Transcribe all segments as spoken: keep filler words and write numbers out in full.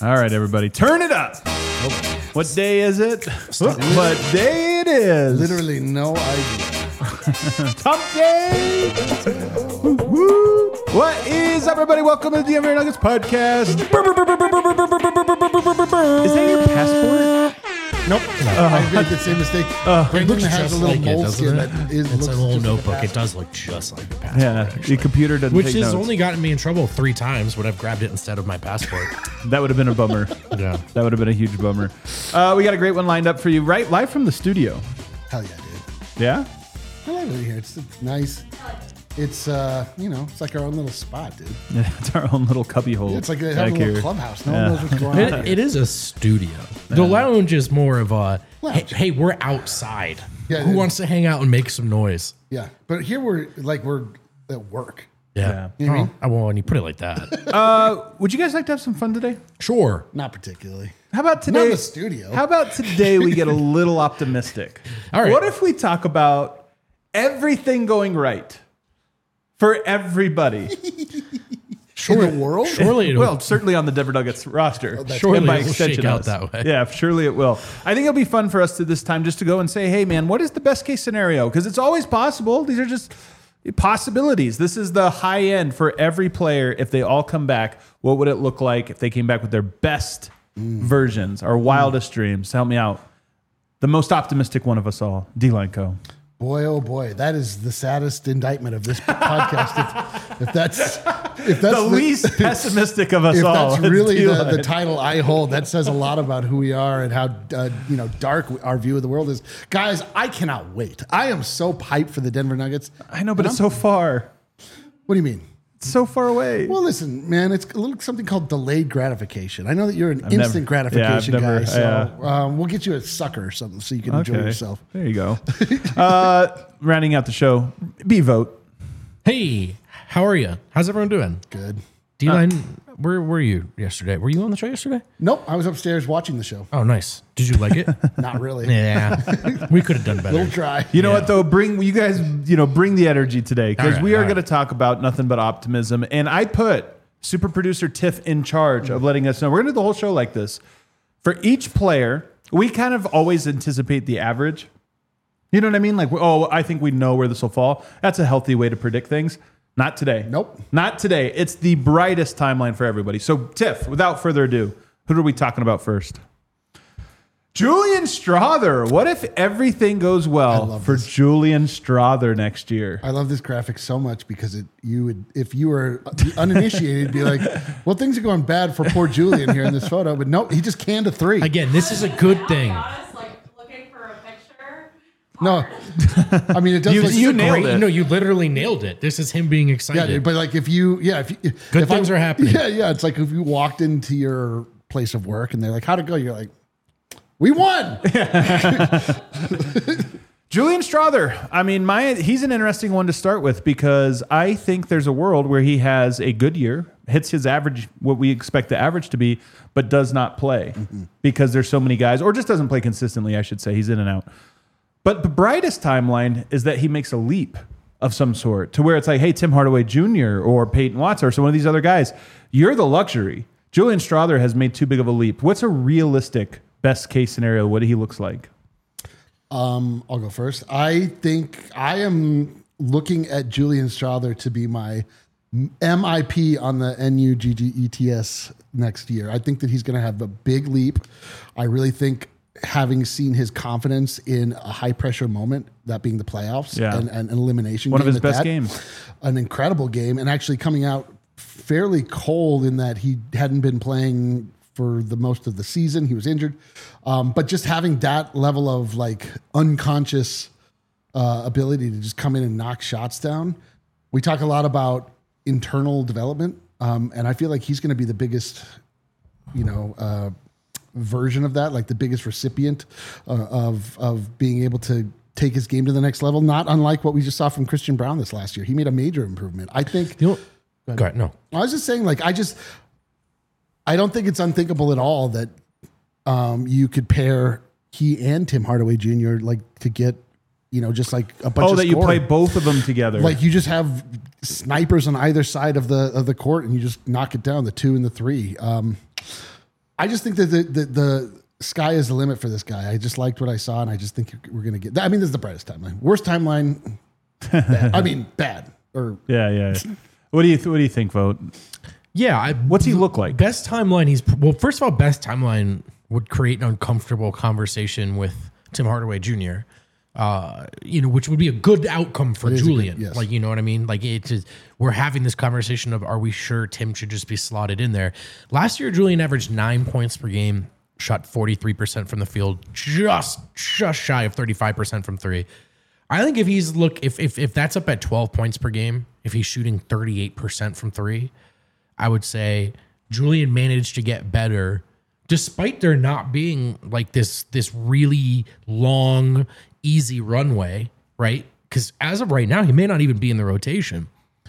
All right, everybody, turn it up. What day is it? What day it is? Literally no idea. Top day. Woo, woo. What is up, everybody? Welcome to the Denver Nuggets podcast. Is that your passport? Nope. Uh, I made the same mistake. Uh, Brendan has a little like moleskin it, that is it's looks a little just notebook. Like it does look just like a passport. Yeah, actually. your computer doesn't Which take has notes. only gotten me in trouble three times when I've grabbed it instead of my passport. That would have been a bummer. Yeah. That would have been a huge bummer. Uh, we got a great one lined up for you, right? Live from the studio. Hell yeah, dude. Yeah? I like it here. It's, it's nice. It's, uh, you know, it's like our own little spot, dude. Yeah, it's our own little cubby hole. Yeah, it's like they have back a little here. clubhouse. No Yeah. one knows what's going on. It, it is a studio. The lounge is more of a, hey, Lounge. hey, we're outside. Yeah, Who it- wants to hang out and make some noise? Yeah, but here we're like we're at work. Yeah. You know what I mean? Oh, well, when you put it like that. Uh, would you guys like to have some fun today? Sure. Not particularly. How about Not today? in the studio. How about today we get a little optimistic? All right. What if we talk about everything going right for everybody? In the world? Surely it'll, Well, certainly on the Denver Nuggets roster. surely And by it'll extension shake out us. that way. Yeah, surely it will. I think it'll be fun for us to this time just to go and say, hey, man, what is the best case scenario? Because it's always possible. These are just possibilities. This is the high end for every player. If they all come back, what would it look like if they came back with their best versions, our wildest dreams? Help me out. The most optimistic one of us all, D-Line Co. Boy, oh boy, that is the saddest indictment of this podcast. If, if that's if that's The least pessimistic of us if all. that's It's really the, D-Line. the title I hold, that says a lot about who we are and how uh, you know dark our view of the world is. Guys, I cannot wait. I am so hyped for the Denver Nuggets. I know, but And it's I'm- so far. What do you mean? It's so far away. Well, listen, man, it's a little something called delayed gratification. I know that you're an I've instant never- gratification yeah, I've never- guy, so yeah. um, we'll get you a sucker or something so you can enjoy yourself. There you go. uh, rounding out the show, B-Vote. Hey, how are you? How's everyone doing? Good. D-Line, where were you yesterday? Were you on the show yesterday? Nope, I was upstairs watching the show. Oh, nice. Did you like it? Not really. Yeah. We could have done A better. little dry. You know what, though? Bring you guys, you know, bring the energy today because All right, we are all going to right. talk about nothing but optimism. And I put super producer Tiff in charge of letting us know. We're going to do the whole show like this. For each player, we kind of always anticipate the average. You know what I mean? Like, oh, I think we know where this will fall. That's a healthy way to predict things. Not today. Nope. Not today. It's the brightest timeline for everybody. So, Tiff, without further ado, who are we talking about first? Julian Strawther. What if everything goes well love for this. Julian Strawther next year? I love this graphic so much because it you would if you were uninitiated be like, well, things are going bad for poor Julian here in this photo, but nope, he just canned a three. Again, this is a good thing. Honest, like looking for a picture. No, I mean it does. You- look, you nailed Great. it. No, you literally nailed it. This is him being yeah, excited. dude, but like if you, yeah, if you, Good if things I- are happening. Yeah, yeah, it's like if you walked into your place of work and they're like, how'd it go? You're like, we won. Julian Strawther. I mean, my he's an interesting one to start with because I think there's a world where he has a good year, hits his average, what we expect the average to be, but does not play because there's so many guys, or just doesn't play consistently, I should say. He's in and out. But the brightest timeline is that he makes a leap of some sort to where it's like, hey, Tim Hardaway Junior or Peyton Watson or some of these other guys, you're the luxury. Julian Strawther has made too big of a leap. What's a realistic best case scenario? What he looks like? Um, I'll go first. I think I am looking at Julian Strawther to be my M I P on the N U G G E T S next year. I think that he's going to have a big leap. I really think having seen his confidence in a high pressure moment, that being the playoffs Yeah. and, and an elimination One of game his at best that, games. an incredible game, and actually coming out fairly cold in that he hadn't been playing for the most of the season. He was injured. Um, but just having that level of like unconscious uh, ability to just come in and knock shots down. We talk a lot about internal development. Um, and I feel like he's going to be the biggest, you know, uh, version of that, like the biggest recipient uh, of, of being able to take his game to the next level. Not unlike what we just saw from Christian Brown this last year. He made a major improvement. I think, You know, go ahead. No. I was just saying, like, I just, I don't think it's unthinkable at all that um, you could pair he and Tim Hardaway Junior like to get, you know, just like a bunch Oh, of that you play scoring. both of them together. Like you just have snipers on either side of the of the court and you just knock it down, the two and the three. Um, I just think that the, the the sky is the limit for this guy. I just liked what I saw, and I just think we're gonna get. I mean, this is the brightest timeline. Worst timeline. Bad. I mean, bad. Or Yeah, yeah. yeah. What do you th- What do you think, Vote? Yeah. I, What's he look like? Best timeline. He's well. First of all, best timeline would create an uncomfortable conversation with Tim Hardaway Junior Uh, you know, which would be a good outcome for It is a good- Julian. yes. Like, you know what I mean? Like, it's just, we're having this conversation of, are we sure Tim should just be slotted in there? Last year, Julian averaged nine points per game, shot forty-three percent from the field, just just shy of thirty-five percent from three. I think if he's look, if if if that's up at twelve points per game, if he's shooting thirty-eight percent from three, I would say Julian managed to get better despite there not being like this this really long, easy runway, right? Because as of right now, he may not even be in the rotation.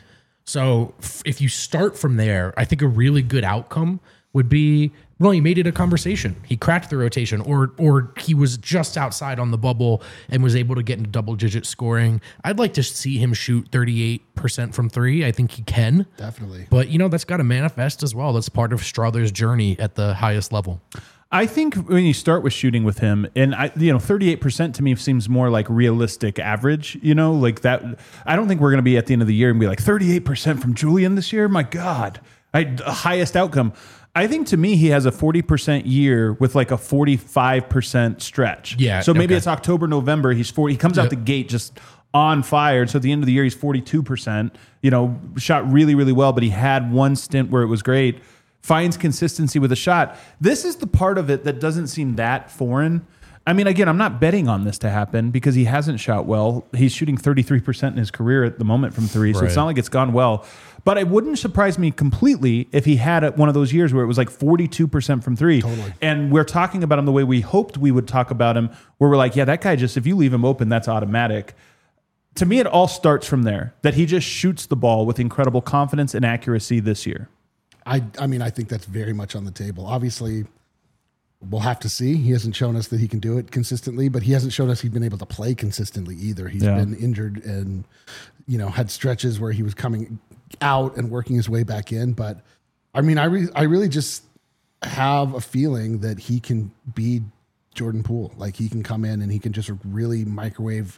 So f- if you start from there, I think a really good outcome would be, well, he made it a conversation. He cracked the rotation, or or he was just outside on the bubble and was able to get into double digit scoring. I'd like to see him shoot thirty-eight percent from three. I think he can. definitely. But, you know, that's got to manifest as well. That's part of Strother's journey at the highest level. I think when you start with shooting with him, and I, you know, thirty-eight percent to me seems more like realistic average, you know, like that. I don't think we're going to be at the end of the year and be like thirty-eight percent from Julian this year. My God, I, highest outcome. I think to me, he has a forty percent year with like a forty-five percent stretch. Yeah, So maybe okay. it's October, November. He's forty. He comes out Yep. the gate just on fire. So at the end of the year, he's forty-two percent, you know, shot really, really well, but he had one stint where it was great. Finds consistency with a shot. This is the part of it that doesn't seem that foreign. I mean, again, I'm not betting on this to happen because he hasn't shot well. He's shooting thirty-three percent in his career at the moment from three, so it's Right. not like it's gone well. But it wouldn't surprise me completely if he had a- one of those years where it was like forty-two percent from three. Totally. And we're talking about him the way we hoped we would talk about him, where we're like, yeah, that guy just, if you leave him open, that's automatic. To me, it all starts from there, that he just shoots the ball with incredible confidence and accuracy this year. I I mean, I think that's very much on the table. Obviously, we'll have to see. He hasn't shown us that he can do it consistently, but he hasn't shown us he's been able to play consistently either. He's Yeah. been injured and, you know, had stretches where he was coming out and working his way back in. But I mean, I re- I really just have a feeling that he can be Jordan Poole. Like he can come in and he can just really microwave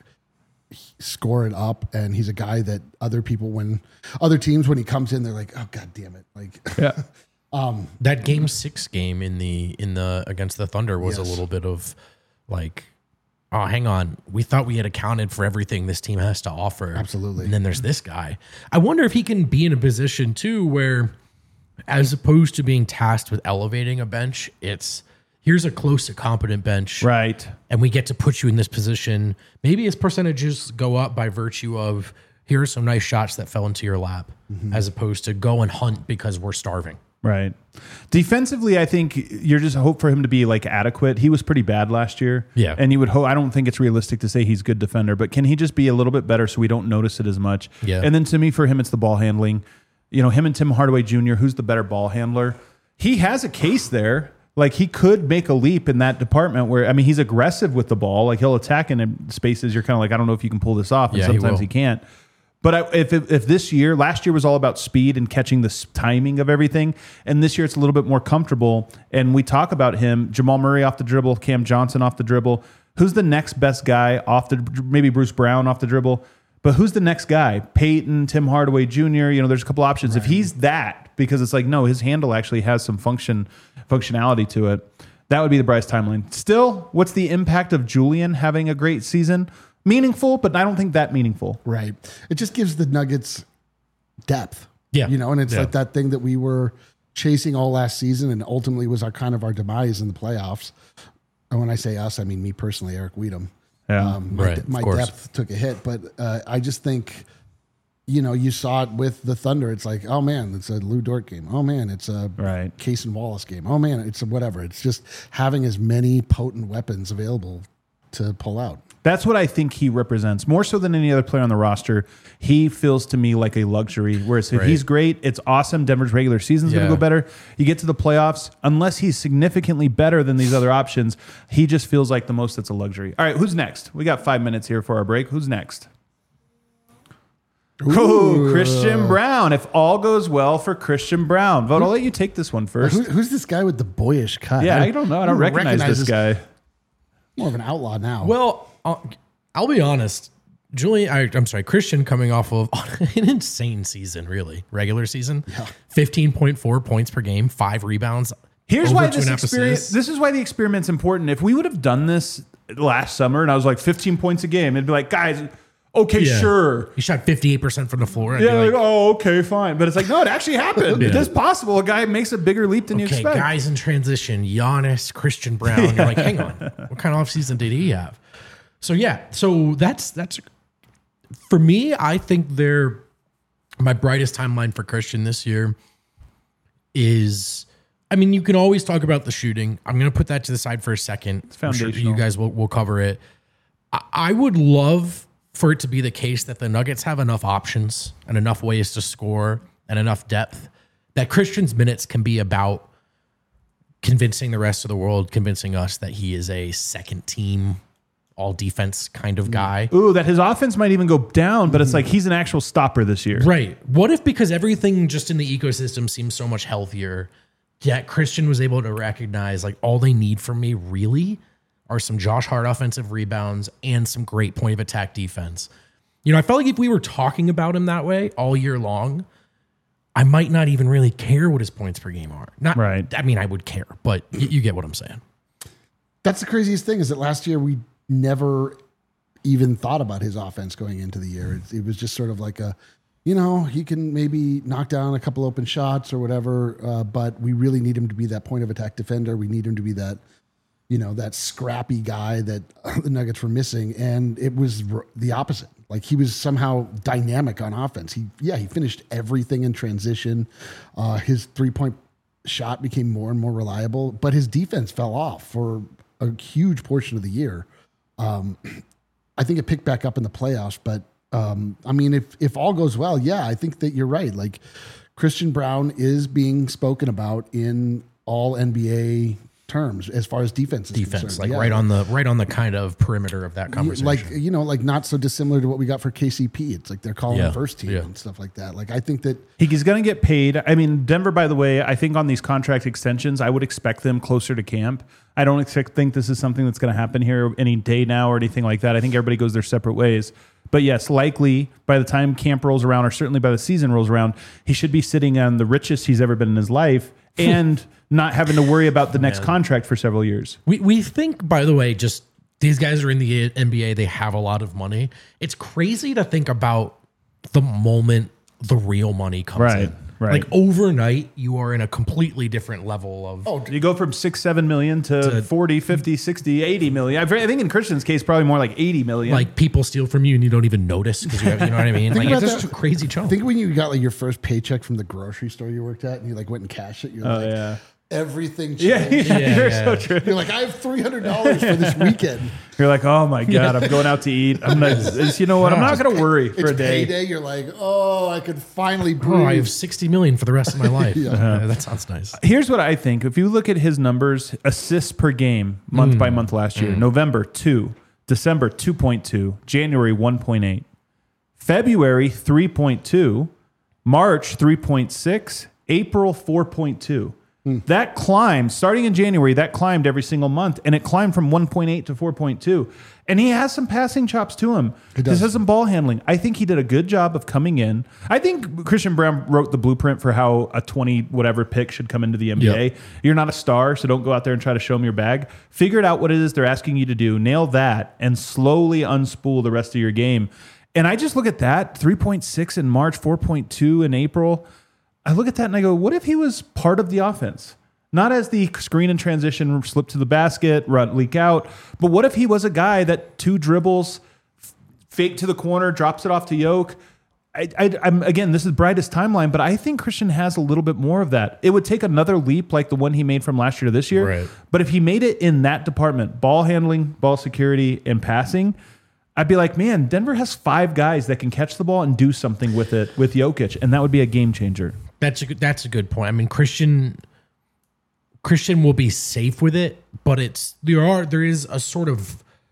score it up, and he's a guy that other people, when other teams, when he comes in, they're like, oh god damn it, like Yeah. That game six game in the in the against the Thunder was Yes. a little bit of like, oh, hang on, we thought we had accounted for everything this team has to offer. Absolutely. And then there's this guy. I wonder if he can be in a position too where, as opposed to being tasked with elevating a bench, it's here's a close to competent bench, Right. and we get to put you in this position. Maybe his percentages go up by virtue of here are some nice shots that fell into your lap, as opposed to go and hunt because we're starving. Right. Defensively, I think you're just hope for him to be like adequate. He was pretty bad last year. Yeah. And you would hope, I don't think it's realistic to say he's a good defender, but can he just be a little bit better so we don't notice it as much? Yeah. And then to me, for him, it's the ball handling. You know, him and Tim Hardaway Junior, who's the better ball handler? He has a case there. Like he could make a leap in that department where, I mean, he's aggressive with the ball. Like he'll attack in spaces. You're kind of like, I don't know if you can pull this off. And Yeah, he sometimes will. he can't. But I, if, if if this year, last year was all about speed and catching the s- timing of everything, and this year it's a little bit more comfortable. And we talk about him, Jamal Murray off the dribble, Cam Johnson off the dribble. Who's the next best guy off the? Maybe Bruce Brown off the dribble, but who's the next guy? Peyton, Tim Hardaway Junior You know, there's a couple options. If he's that, because it's like no, his handle actually has some function functionality to it. That would be the Bryce timeline. Still, what's the impact of Julian having a great season? Meaningful, but I don't think that meaningful. Right. It just gives the Nuggets depth. Yeah. You know, and it's Yeah. like that thing that we were chasing all last season and ultimately was our kind of our demise in the playoffs. And when I say us, I mean me personally, Eric Weedham. Yeah. Um, my Right, of my course. depth took a hit, but uh, I just think, you know, you saw it with the Thunder. It's like, oh man, it's a Lou Dort game. Oh man, it's a Right. Case and Wallace game. Oh man, it's a whatever. It's just having as many potent weapons available to pull out. That's what I think he represents more so than any other player on the roster. He feels to me like a luxury. Whereas if Right. he's great, it's awesome. Denver's regular season's going Yeah. to go better. You get to the playoffs, unless he's significantly better than these other options, he just feels like the most that's a luxury. All right, who's next? We got five minutes here for our break. Who's next? Oh, Christian Brown. If all goes well for Christian Brown. Vote, I'll let you take this one first. Who, who's this guy with the boyish cut? Yeah, I don't know. I don't recognize, recognize this guy. More of an outlaw now. Well, I'll, I'll be honest. Julian, I, I'm sorry, Christian coming off of an insane season, really. Regular season. Yeah. fifteen point four points per game, five rebounds. Here's why this experience, this is why the experiment's important. If we would have done this last summer and I was like fifteen points a game, it'd be like, guys, okay, yeah. sure. He shot fifty-eight percent from the floor. Yeah, like, like, oh, okay, fine. But it's like, no, it actually happened. yeah. It is possible. A guy makes a bigger leap than okay, you expect. Guys in transition, Giannis, Christian Brown. yeah. You're like, hang on, what kind of offseason did he have? So, yeah, so that's, that's for me, I think they're, my brightest timeline for Christian this year is, I mean, you can always talk about the shooting. I'm going to put that to the side for a second. It's foundational. I'm sure you guys will, will cover it. I, I would love for it to be the case that the Nuggets have enough options and enough ways to score and enough depth that Christian's minutes can be about convincing the rest of the world, convincing us that he is a second team, all defense kind of guy. Ooh, that his offense might even go down, but it's like he's an actual stopper this year. Right. What if because everything just in the ecosystem seems so much healthier, yet Christian was able to recognize like all they need from me really are some Josh Hart offensive rebounds and some great point of attack defense. You know, I felt like if we were talking about him that way all year long, I might not even really care what his points per game are. Not right. I mean, I would care, but y- you get what I'm saying. That's the craziest thing is that last year we never even thought about his offense going into the year. It, it was just sort of like a, you know, he can maybe knock down a couple open shots or whatever, uh, but we really need him to be that point of attack defender. We need him to be that, you know, that scrappy guy that the Nuggets were missing. And it was r- the opposite. Like he was somehow dynamic on offense. He, yeah, he finished everything in transition. Uh, his three-point shot became more and more reliable, but his defense fell off for a huge portion of the year. Um, I think it picked back up in the playoffs, but um, I mean, if if all goes well, yeah, I think that you're right. Like Christian Brown is being spoken about in all N B A terms as far as defense is defense, concerned. like yeah. right on the right on the kind of perimeter of that conversation. Like, you know, like not so dissimilar to what we got for K C P. It's like they're calling Yeah. him first team Yeah. and stuff like that. Like I think that He's going to get paid. I mean, Denver, by the way, I think on these contract extensions, I would expect them closer to camp. I don't expect, think this is something that's going to happen here any day now or anything like that. I think everybody goes their separate ways. But yes, likely by the time camp rolls around, or certainly by the season rolls around, he should be sitting on the richest he's ever been in his life and not having to worry about the next Man. contract for several years. We we think, by the way, just these guys are in the N B A. They have a lot of money. It's crazy to think about the moment the real money comes Right, in. right. Like overnight, you are in a completely different level of. Oh, you go from six, seven million to, to forty, fifty, sixty, eighty million. I think in Christian's case, probably more like eighty million. Like people steal from you and you don't even notice because you have, you know what I mean? Like about it's just that. a crazy chunk. think when you got like your first paycheck from the grocery store you worked at and you like went and cashed it, you're oh, like, yeah. everything changed. Yeah, yeah, Yeah, you're yeah. so true. You're like, I have three hundred dollars for this weekend. You're like, oh my God, I'm going out to eat. I'm not, you know what? I'm not going to worry for It's a day. payday. You're like, oh, I could finally breathe. Oh, I have sixty million for the rest of my life. Yeah. Uh, that sounds nice. Here's what I think. If you look at his numbers, assists per game, month by month last year, November, two, December, two point two, January, one point eight, February, three point two, March, three point six, April, four point two. That climbed, starting in January, that climbed every single month, and it climbed from one point eight to four point two. And he has some passing chops to him. He does. has some ball handling. I think he did a good job of coming in. I think Christian Brown wrote the bluepoint for how a twenty whatever pick should come into the N B A. Yep. You're not a star, so don't go out there and try to show them your bag. Figure it out what it is they're asking you to do. Nail that and slowly unspool the rest of your game. And I just look at that, three point six in March, four point two in April. I look at that and I go, what if he was part of the offense? Not as the screen and transition, slip to the basket, run, leak out, but what if he was a guy that two dribbles, f- fake to the corner, drops it off to Yoke? I, I, I'm again, this is brightest timeline, but I think Christian has a little bit more of that. It would take another leap like the one he made from last year to this year. Right. But if he made it in that department, ball handling, ball security, and passing, I'd be like, man, Denver has five guys that can catch the ball and do something with it with Jokic, and that would be a game changer. That's a good, that's a good point. I mean, Christian Christian will be safe with it, but it's there are there is a sort of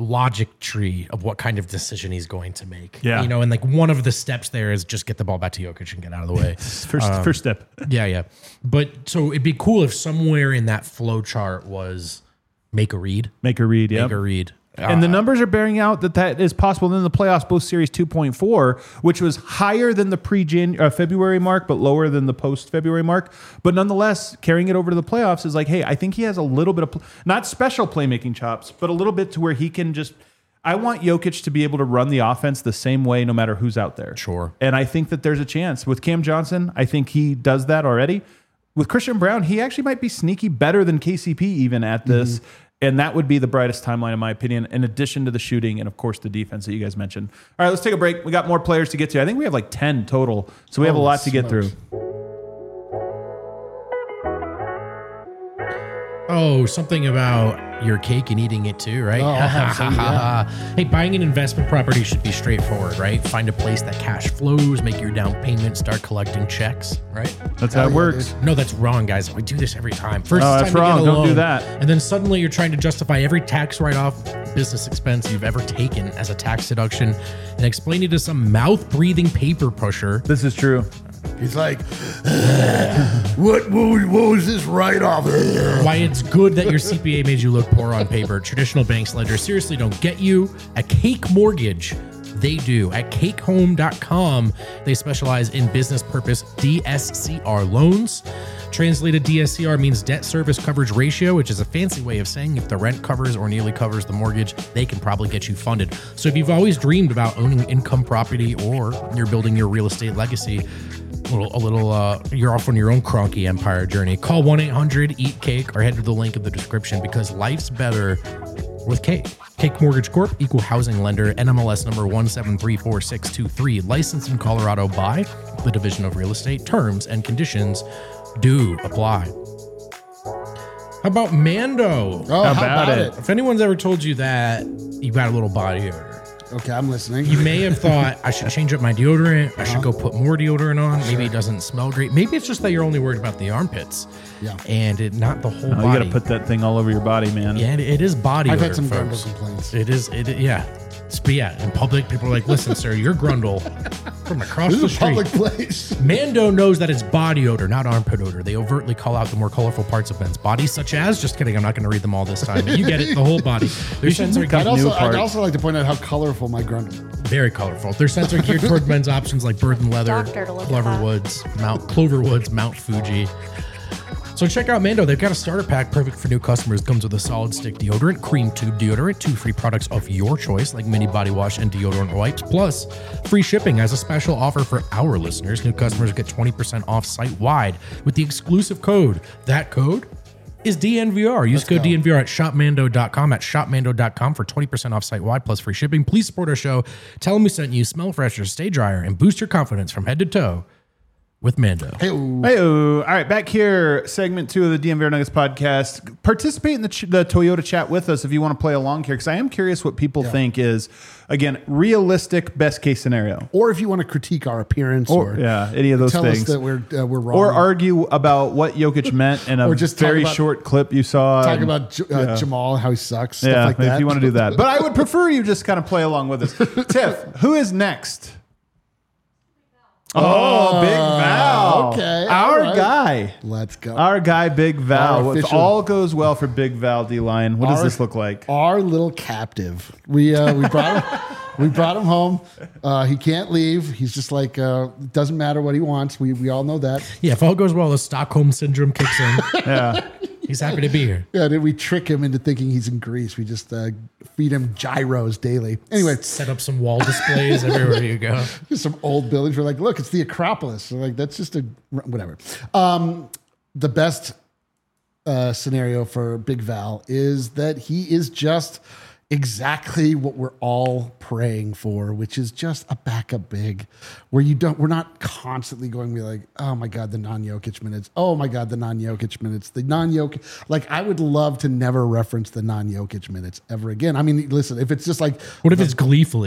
logic tree of what kind of decision he's going to make. Yeah. You know, and like one of the steps there is just get the ball back to Jokic and get out of the way. First, Um, first step. Yeah, yeah. But so it'd be cool if somewhere in that flow chart was make a read, Make a read, yeah. make a read. And the numbers are bearing out that that is possible in the playoffs, both series two point four, which was higher than the pre uh, February mark, but lower than the post February mark. But nonetheless, carrying it over to the playoffs is like, hey, I think he has a little bit of, pl- not special playmaking chops, but a little bit to where he can just, I want Jokic to be able to run the offense the same way no matter who's out there. Sure. And I think that there's a chance. With Cam Johnson, I think he does that already. With Christian Brown, he actually might be sneaky better than K C P even at this. Mm-hmm. And that would be the brightest timeline, in my opinion, in addition to the shooting and, of course, the defense that you guys mentioned. All right, let's take a break. We got more players to get to. I think we have like ten total, so we have a Holy lot to get smokes. through. Oh, something about your cake and eating it too, right? Oh, I'll have some, yeah. Hey, buying an investment property should be straightforward, right? Find a place that cash flows, make your down payment, start collecting checks, right? That's how Hell it yeah, works. dude. No, that's wrong, guys. We do this every time. First, Oh, it's that's time to wrong. get a Don't do loan, that. And then suddenly you're trying to justify every tax write-off business expense you've ever taken as a tax deduction and explain it to some mouth-breathing paper pusher. This is true. He's like, what, what, was- what was this write-off? Why it's good that your C P A made you look poor on paper. Traditional banks ledgers seriously don't get you. At Cake Mortgage, they do. At cake home dot com, they specialize in business purpose D S C R loans. Translated, D S C R means debt service coverage ratio, which is a fancy way of saying if the rent covers or nearly covers the mortgage, they can probably get you funded. So if you've always dreamed about owning income property or you're building your real estate legacy, a little, a little uh, you're off on your own cronky empire journey. Call one eight hundred eat cake or head to the link in the description because life's better with Cake. Cake Mortgage Corp, equal housing lender, N M L S number one seven three four six two three, licensed in Colorado by the Division of Real Estate. Terms and conditions do apply. How about Mando? Oh, How how about about, it? it? If anyone's ever told you that you got a little body odor, Okay, I'm listening. you may have thought I should change up my deodorant. I should go put more deodorant on. Maybe it doesn't smell great. Maybe it's just that you're only worried about the armpits. Yeah. And it, not the whole Oh, you body. got to put that thing all over your body, man. yeah, it, it is body I've odor, had some grundle folks. complaints. It is, it, yeah. But yeah, in public, people are like, listen, sir, you're grundle from across This the is a street. public place. Mando knows that it's body odor, not armpit odor. They overtly call out the more colorful parts of men's bodies, such as, just kidding, I'm not going to read them all this time. But you get it, the whole body. Their sense are look up I'd geared, also, new I'd parts. also like to point out how colorful my grundle. very colorful. Their scents are geared toward men's options like Bird and Leather, Doctor to look at Clover that. Woods, Mount Clover Woods, Mount Fuji. So check out Mando. They've got a starter pack perfect for new customers. Comes with a solid stick deodorant, cream tube deodorant, two free products of your choice like mini body wash and deodorant wipes, plus free shipping. As a special offer for our listeners, new customers get twenty percent off site-wide with the exclusive code. That code is D N V R. Use Let's code go. D N V R at shop mando dot com at shop mando dot com for twenty percent off site-wide plus free shipping. Please support our show. Tell them we sent you. Smell fresher, stay drier, and boost your confidence from head to toe with Mando. Hey, Hey, all right, back here, segment two of the D M V R Nuggets podcast. Participate in the, ch- the Toyota chat with us if you want to play along here, because I am curious what people think is, again, realistic best case scenario. or if you want to critique our appearance, Or, or, yeah, any of those tell things. us that we're uh, we're wrong, Or argue about what Jokic meant in a Or just talk very about- short clip you saw. talk and- about J- uh, Jamal, how he sucks, stuff yeah, like that. if you want to do that. But I would prefer you just kind of play along with us. Tiff, who is next? Oh, Big Val. okay, Our all right. guy. Let's go. Our guy, Big Val. Our If official- all goes well for Big Val D-Line, what does Our- this look like? Our little captive. We uh, we brought him. We brought him home. Uh, he can't leave. He's just like uh, doesn't matter what he wants. We we all know that. Yeah, if all goes well, the Stockholm syndrome kicks in. Yeah. He's happy to be here. Yeah, then we trick him into thinking he's in Greece. We just uh, feed him gyros daily. Anyway, Set up some wall displays everywhere you go. just some old buildings. We're like, look, it's the Acropolis. We're like, that's just a whatever. Um, the best uh, scenario for Big Val is that he is just exactly what we're all praying for, which is just a backup big, where you don't. We're not constantly going to be like, oh my god, the non-Jokic minutes. Oh my god, the non-Jokic minutes. The non-Jokic. Like, I would love to never reference the non-Jokic minutes ever again. I mean, listen, if it's just like, What if it's gleefully?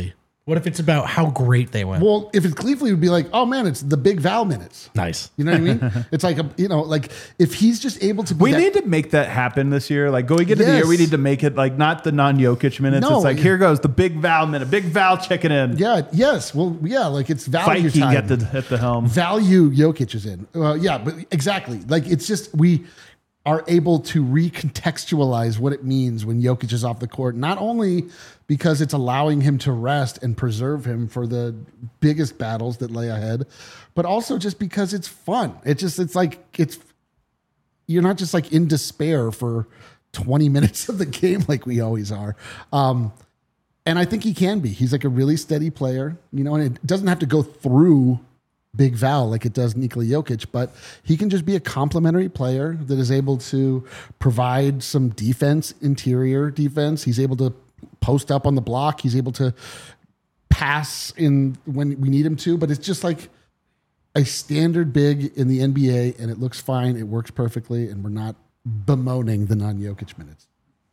What if it's about how great they went? Well, if it's Cleefley, it would be like, oh man, it's the big Val minutes. Nice. You know what I mean? It's like, a, you know, like if he's just able to be We that- need to make that happen this year. Like going into the year, we Yes. need to make it like not the non-Jokic minutes. No, it's like, yeah. here goes the big Val minute, big Val checking in. Yeah, yes. Well, yeah, like it's value Viking time. at the, at the helm. Value Jokic is in. Uh, yeah, but exactly. Like it's just, we are able to recontextualize what it means when Jokic is off the court, not only because it's allowing him to rest and preserve him for the biggest battles that lay ahead, but also just because it's fun. It just, it's like, it's, you're not just like in despair for twenty minutes of the game like we always are. Um, and I think he can be. He's like a really steady player, you know, and it doesn't have to go through Big Val like it does Nikola Jokic, but he can just be a complementary player that is able to provide some defense, interior defense. He's able to post up on the block. He's able to pass in when we need him to, but it's just like a standard big in the N B A, and it looks fine. It works perfectly, and we're not bemoaning the non-Jokic minutes.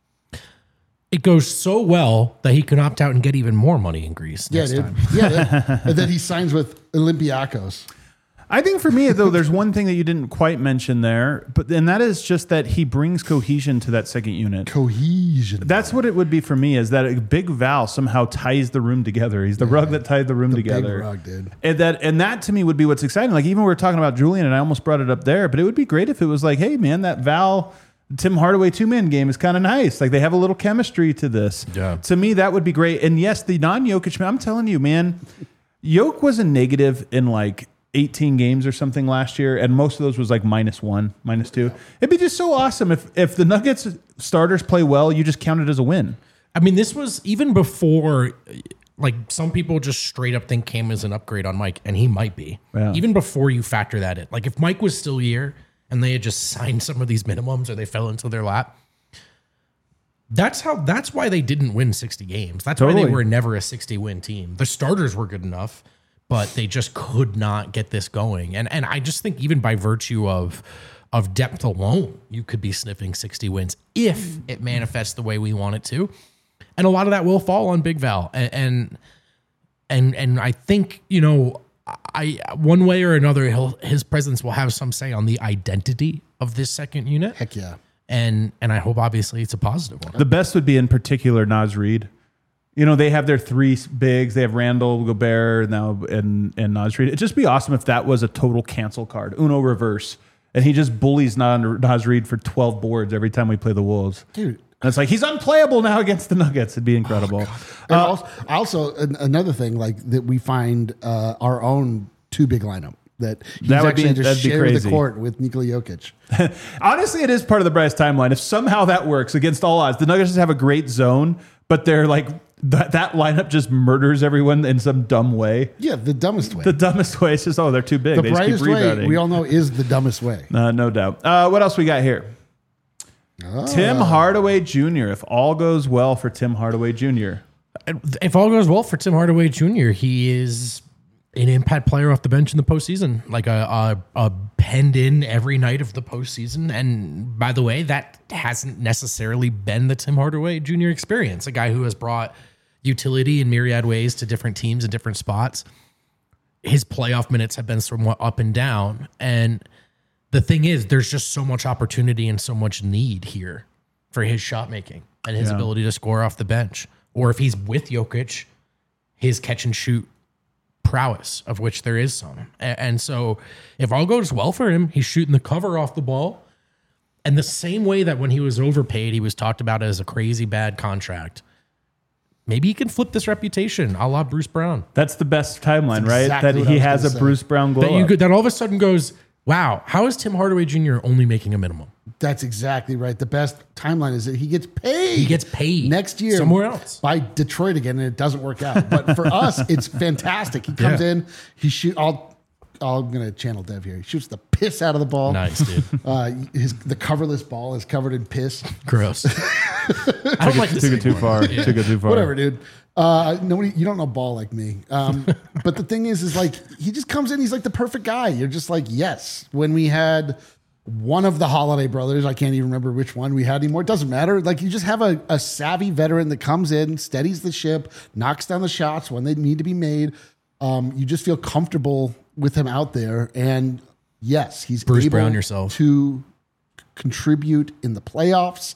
It goes so well that he can opt out and get even more money in Greece Yeah, next dude. time. Yeah, that, and then he signs with Olympiacos. I think for me, though, there's one thing that you didn't quite mention there, but and that is just that he brings cohesion to that second unit. Cohesion. That's what it would be for me, is that a big Val somehow ties the room together. He's the rug that tied the room The big together. rug, dude. And that and that to me would be what's exciting. Like even we were talking about Julian, and I almost brought it up there, but it would be great if it was like, hey man, that Val Tim Hardaway two-man game is kind of nice. Like they have a little chemistry to this. Yeah. To me, that would be great. And yes, the non-Jokic, I'm telling you, man, Jokic was a negative in like eighteen games or something last year, and most of those was like minus one, minus two. It'd be just so awesome if if the Nuggets starters play well, you just count it as a win. I mean, this was even before, like some people just straight up think Cam is an upgrade on Mike, and he might be. Yeah. Even before you factor that in. Like if Mike was still here and they had just signed some of these minimums or they fell into their lap, that's how. That's why they didn't win sixty games. That's why Totally. they were never a sixty win team. The starters were good enough, but they just could not get this going. And and I just think even by virtue of of depth alone, you could be sniffing sixty wins if it manifests the way we want it to. And a lot of that will fall on Big Val. And and and, and I think, you know, I one way or another, he'll, his presence will have some say on the identity of this second unit. Heck yeah. And and I hope obviously it's a positive one. The best would be in particular Naz Reid. You know, they have their three bigs. They have Randall, Gobert, now and and Naz Reid. It'd just be awesome if that was a total cancel card, Uno reverse, and he just bullies Naz Reid for twelve boards every time we play the Wolves. Dude. And it's like he's unplayable now against the Nuggets. It'd be incredible. And also, also an, another thing like that we find uh, our own two big lineup that he's That would actually be- just that'd be share crazy. the court with Nikola Jokic. Honestly, it is part of the Bryce timeline. If somehow that works against all odds, the Nuggets just have a great zone, but they're like that, that lineup just murders everyone in some dumb way. Yeah, the dumbest way. The dumbest way is just, oh, they're too big. The they just keep brightest way rebounding. we all know is the dumbest way. Uh, no doubt. Uh, what else we got here? Tim Hardaway Junior If all goes well for Tim Hardaway Junior If all goes well for Tim Hardaway Junior, he is an impact player off the bench in the postseason, like a, a, a penned in every night of the postseason. And by the way, that hasn't necessarily been the Tim Hardaway Junior experience, a guy who has brought utility in myriad ways to different teams in different spots. His playoff minutes have been somewhat up and down. And the thing is, there's just so much opportunity and so much need here for his shot making and his Yeah. ability to score off the bench. Or if he's with Jokic, his catch and shoot prowess, of which there is some. A- And so if all goes well for him, he's shooting the cover off the ball. And the same way that when he was overpaid, he was talked about as a crazy bad contract. Maybe he can flip this reputation a la Bruce Brown. That's the best timeline, That's right? exactly That what he I was has a gonna say. Bruce Brown glow That you up. could, that all of a sudden goes, wow, how is Tim Hardaway Junior only making a minimum? That's exactly right. The best timeline is that he gets paid. He gets paid next year somewhere else. by Detroit again, and it doesn't work out. But for us, it's fantastic. He comes Yeah. in, he shoot. I'll, I'm going to channel Dev here. He shoots the piss out of the ball. Nice, dude. Uh, his the coverless ball is covered in piss. Gross. I don't like this Took it too anymore. far. Yeah. Took it too far. Whatever, dude. Uh, nobody, you don't know ball like me. Um, but the thing is, is like he just comes in. He's like the perfect guy. You're just like, yes. When we had one of the Holiday brothers, I can't even remember which one we had anymore. It doesn't matter. Like you just have a, a savvy veteran that comes in, steadies the ship, knocks down the shots when they need to be made. Um, you just feel comfortable with him out there. And yes, he's Bruce able Brown yourself. to contribute in the playoffs.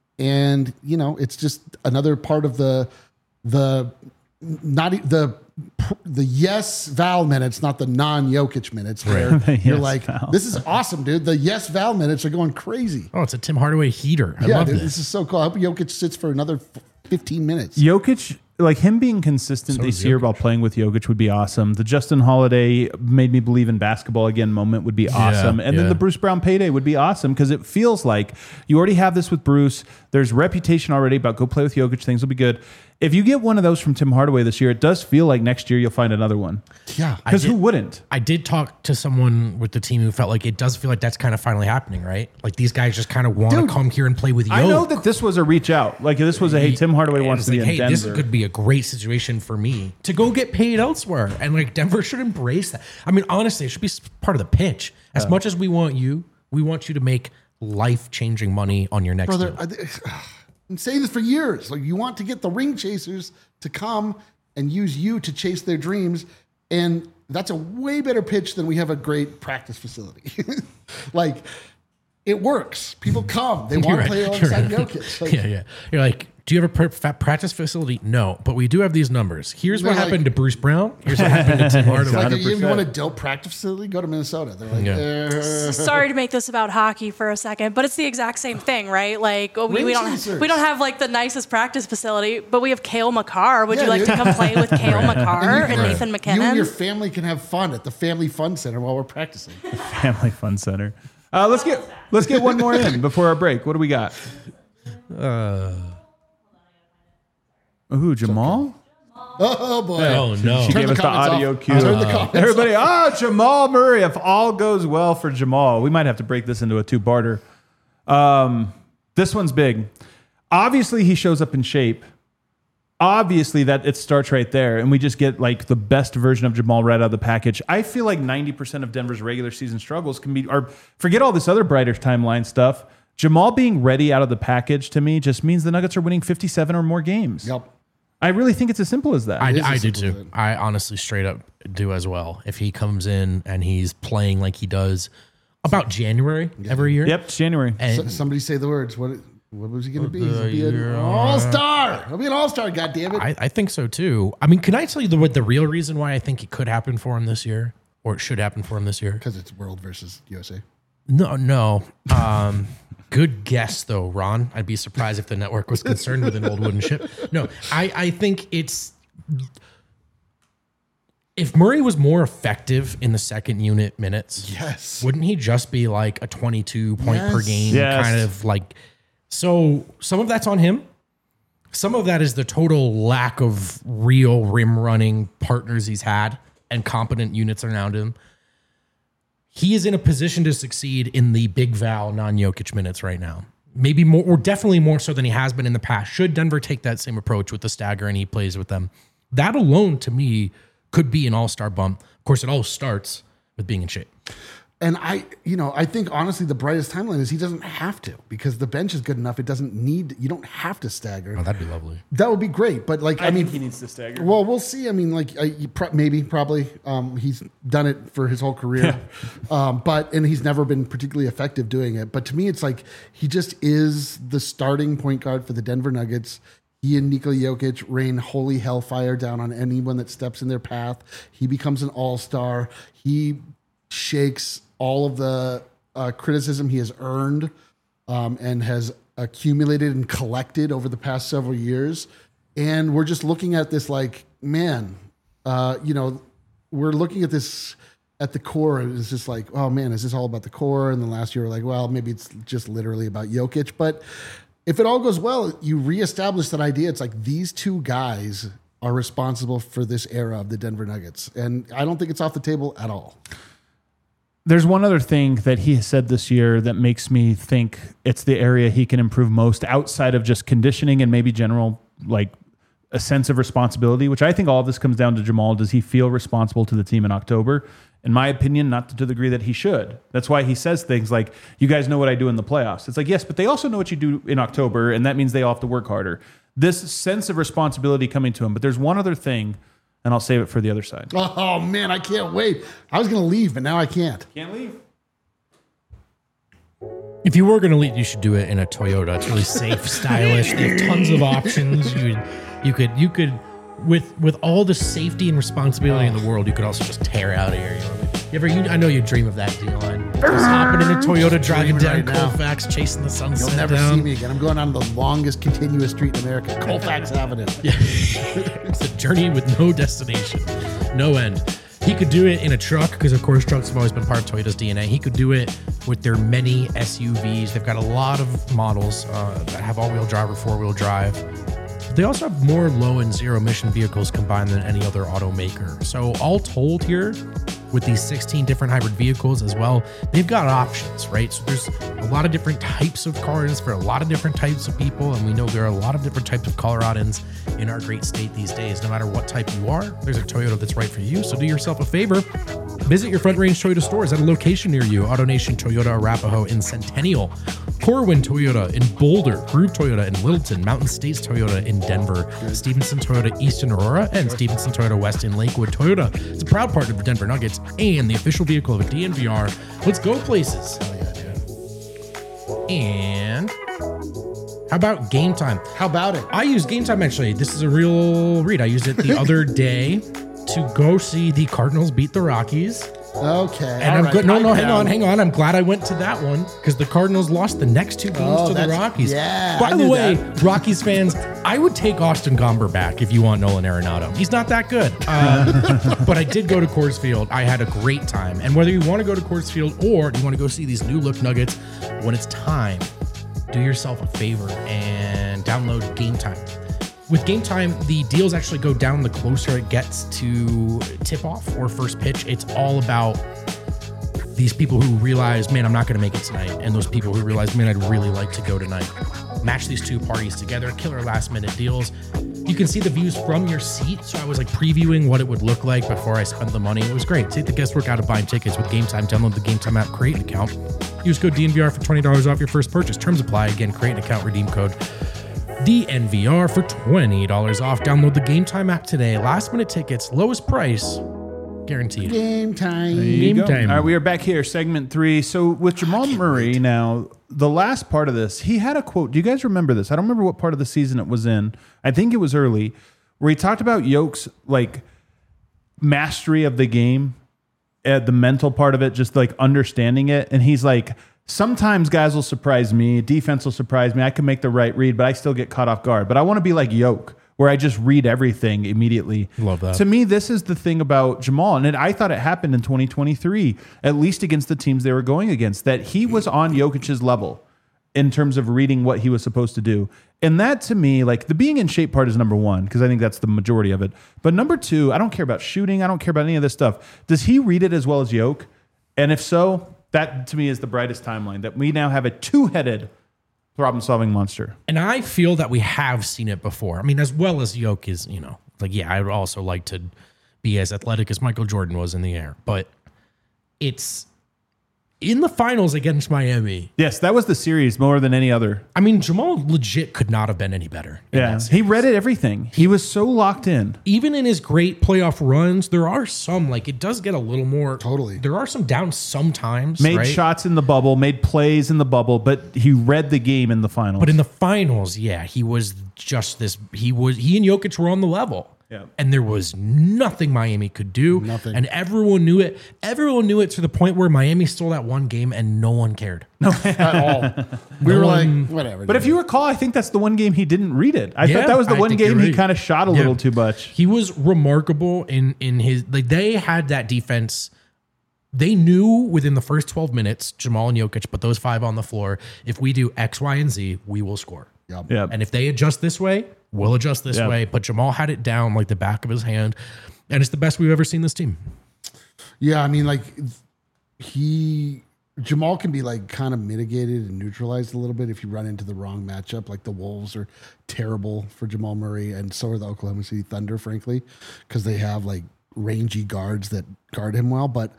And, you know, it's just another part of the, the, not e- the, the yes Val minutes, not the non Jokic minutes where Right. you're Yes like, Val. this is awesome, dude. The yes Val minutes are going crazy. Oh, it's a Tim Hardaway heater. I yeah, love dude, this. this is so cool. I hope Jokic sits for another f- fifteen minutes. Jokic, like him being consistent So this is year Jokic. while playing with Jokic would be awesome. The Justin Holiday made me believe in basketball again moment would be awesome. And yeah. then the Bruce Brown payday would be awesome because it feels like you already have this with Bruce. There's reputation already about go play with Jokic. Things will be good. If you get one of those from Tim Hardaway this year, it does feel like next year you'll find another one. Yeah. Because who did- wouldn't? I did talk to someone with the team who felt like it does feel like that's kind of finally happening, right? Like these guys just kind of want to Dude, come here and play with Yoke. I know that this was a reach out. Like this was a hey, Tim Hardaway And wants it's to be like, in hey, this Denver. could be a great situation for me to go get paid elsewhere. And like Denver should embrace that. I mean, honestly, it should be s- part of the pitch. As much as we want you, we want you to make life-changing money on your next Brother, deal. I, th- I'm saying this for years. Like you want to get the ring chasers to come and use you to chase their dreams. And that's a way better pitch than we have a great practice facility. Like it works. People come. They want You're to right. play You're alongside right. Jokic. Like, yeah, yeah. You're like, do you have a pr- fa- practice facility? No, but we do have these numbers. Here's what They're like- happened to Bruce Brown. Here's what happened to Tim Hardaway. Like, one hundred you, you percent. want a dope practice facility? Go to Minnesota. They're like, Yeah. "Eh." Sorry to make this about hockey for a second, but it's the exact same thing, right? Like we, Ring we don't chasers. we don't have like the nicest practice facility, but we have Kale McCarr. Would Yeah, you like dude. to come play with Kale McCarr And and you- Nathan you and your McKinnon? family can have fun at the Family Fun Center while we're practicing. Family Fun Center. Uh, let's get let's get one more in before our break. What do we got? Uh, Ooh, Jamal? Oh boy! Oh no! She Turn gave the us the comments audio off. cue. Turn the comments Everybody, oh, Jamal Murray. If all goes well for Jamal, we might have to break this into a two-parter. Um, this one's big. Obviously, he shows up in shape. Obviously, that it starts right there, and we just get like the best version of Jamal right out of the package. I feel like ninety percent of Denver's regular season struggles can be, or forget all this other brighter timeline stuff. Jamal being ready out of the package to me just means the Nuggets are winning fifty-seven or more games. Yep. I really think it's as simple as that. I, is I as do simple as too. that. I honestly straight up do as well. If he comes in and he's playing like he does about January every year. Yep, it's January. And So- somebody say the words. What? What was he going to be? Uh, He'll be an you're- all star. He'll be an all star. God damn it! I, I think so too. I mean, can I tell you the, what the real reason why I think it could happen for him this year, or it should happen for him this year? Because it's World versus U S A. No, no. Um, good guess though, Ron. I'd be surprised if the network was concerned with an old wooden ship. No, I, I think it's if Murray was more effective in the second unit minutes, Yes. wouldn't he just be like a twenty-two point per Yes. game Yes. kind of like? So some of that's on him. Some of that is the total lack of real rim running partners he's had and competent units around him. He is in a position to succeed in the big Val non-Jokic minutes right now. Maybe more, or definitely more so than he has been in the past. Should Denver take that same approach with the stagger and he plays with them, that alone to me could be an all-star bump. Of course, it all starts with being in shape. And I, you know, I think honestly the brightest timeline is he doesn't have to because the bench is good enough. It doesn't need. You don't have to stagger. Oh, that'd be lovely. That would be great. But like, I, mean, he needs to stagger. well, we'll see. I mean, like, uh, you pro- maybe, probably, um, he's done it for his whole career, um, but and he's never been particularly effective doing it. But to me, it's like he just is the starting point guard for the Denver Nuggets. He and Nikola Jokic rain holy hellfire down on anyone that steps in their path. He becomes an all-star. He shakes all of the uh, criticism he has earned um, and has accumulated and collected over the past several years. And we're just looking at this like, man, uh, you know, we're looking at this at the core. And it's just like, oh man, is this all about the core? And then last year we're like, well, maybe it's just literally about Jokic. But if it all goes well, you reestablish that idea. It's like these two guys are responsible for this era of the Denver Nuggets. And I don't think it's off the table at all. There's one other thing that he has said this year that makes me think it's the area he can improve most outside of just conditioning and maybe general, like a sense of responsibility, which I think all of this comes down to Jamal. Does he feel responsible to the team in October? In my opinion, not to the degree that he should. That's why he says things like, you guys know what I do in the playoffs. It's like, yes, but they also know what you do in October, and that means they all have to work harder. This sense of responsibility coming to him. But there's one other thing, and I'll save it for the other side. Oh, man, I can't wait. I was going to leave, but now I can't. Can't leave. If you were going to lead, you should do it in a Toyota. It's really safe, stylish. They have tons of options. You, you could, you could, with with all the safety and responsibility in the world, you could also just tear out of here. You know? You ever, you, I know you dream of that deal. And just hopping in a Toyota, driving down right now. Colfax, chasing the sunset. You'll never down. see me again. I'm going on the longest continuous street in America, Colfax Avenue. It's a journey with no destination, no end. He could do it in a truck because, of course, trucks have always been part of Toyota's D N A. He could do it with their many S U Vs. They've got a lot of models uh, that have all-wheel drive or four-wheel drive. They also have more low and zero-emission vehicles combined than any other automaker. So all told here, with these sixteen different hybrid vehicles as well, they've got options, right? So there's a lot of different types of cars for a lot of different types of people, and we know there are a lot of different types of Coloradans in our great state these days. No matter what type you are, there's a Toyota that's right for you. So do yourself a favor. Visit your Front Range Toyota stores at a location near you. AutoNation Toyota Arapahoe in Centennial, Corwin Toyota in Boulder, Groove Toyota in Littleton, Mountain States Toyota in Denver, Stevenson Toyota East in Aurora, and Stevenson Toyota West in Lakewood. Toyota is a proud partner of the Denver Nuggets and the official vehicle of a D N V R. Let's go places. Hell yeah, dude. And how about Game Time? How about it? I use Game Time actually. This is a real read. I used it the other day to go see the Cardinals beat the Rockies. Okay. And all I'm right, good. No, pipe no, hang down. on, hang on. I'm glad I went to that one because the Cardinals lost the next two games Oh, to the that's- Rockies. yeah, By I the knew way, that. Rockies fans, I would take Austin Gomber back if you want Nolan Arenado. He's not that good. Uh, but I did go to Coors Field. I had a great time. And whether you want to go to Coors Field or you want to go see these new look Nuggets, when it's time, do yourself a favor and download Game Time. With Game Time, the deals actually go down the closer it gets to tip off or first pitch. It's all about these people who realize, man, I'm not going to make it tonight. And those people who realize, man, I'd really like to go tonight. Match these two parties together, killer last minute deals. You can see the views from your seat. So I was like previewing what it would look like before I spent the money. It was great. Take the guesswork out of buying tickets with Game Time. Download the Game Time app, create an account. Use code D N V R for twenty dollars off your first purchase. Terms apply. Again, create an account, redeem code D N V R for twenty dollars off. Download the Game Time app today. Last minute tickets, lowest price, guaranteed. Game time. There you Game go. time. All right, we are back here, segment three. So with Jamal Murray now, the last part of this, he had a quote. Do you guys remember this? I don't remember what part of the season it was in. I think it was early, where he talked about Yoke's like mastery of the game, uh, the mental part of it, just like understanding it. And he's like, sometimes guys will surprise me, defense will surprise me. I can make the right read, but I still get caught off guard. But I want to be like Yoke, where I just read everything immediately. Love that. To me, this is the thing about Jamal, and it, I thought it happened in twenty twenty-three, at least against the teams they were going against, that he was on Jokic's level in terms of reading what he was supposed to do. And that, to me, like the being in shape part is number one, because I think that's the majority of it. But number two, I don't care about shooting. I don't care about any of this stuff. Does he read it as well as Yoke? And if so, that to me is the brightest timeline, that we now have a two-headed problem-solving monster. And I feel that we have seen it before. I mean, as well as Yoke is, you know, like, yeah, I would also like to be as athletic as Michael Jordan was in the air. But it's in the finals against Miami. Yes, that was the series more than any other. I mean, Jamal legit could not have been any better. in Yeah, that he series. read it everything. He was so locked in. Even in his great playoff runs, there are some, like, it does get a little more. Totally. There are some downs sometimes. Made right? shots in the bubble, made plays in the bubble, but he read the game in the finals. But in the finals, yeah, he was just this. He was he and Jokic were on the level. Yeah. And there was nothing Miami could do. Nothing. And everyone knew it. Everyone knew it to the point where Miami stole that one game and no one cared. At all. We were like, whatever. But if you recall, I think that's the one game he didn't read it. I Yeah, thought that was the I one think game you're he right. kind of shot a Yeah. little too much. He was remarkable in in his like they had that defense. They knew within the first twelve minutes, Jamal and Jokic put those five on the floor. If we do X, Y, and Z, we will score. Yep. Yeah. And if they adjust this way, we'll adjust this Yeah. way. But Jamal had it down like the back of his hand. And it's the best we've ever seen this team. Yeah, I mean, like he Jamal can be like kind of mitigated and neutralized a little bit if you run into the wrong matchup. Like the Wolves are terrible for Jamal Murray, and so are the Oklahoma City Thunder, frankly, because they have like rangy guards that guard him well. But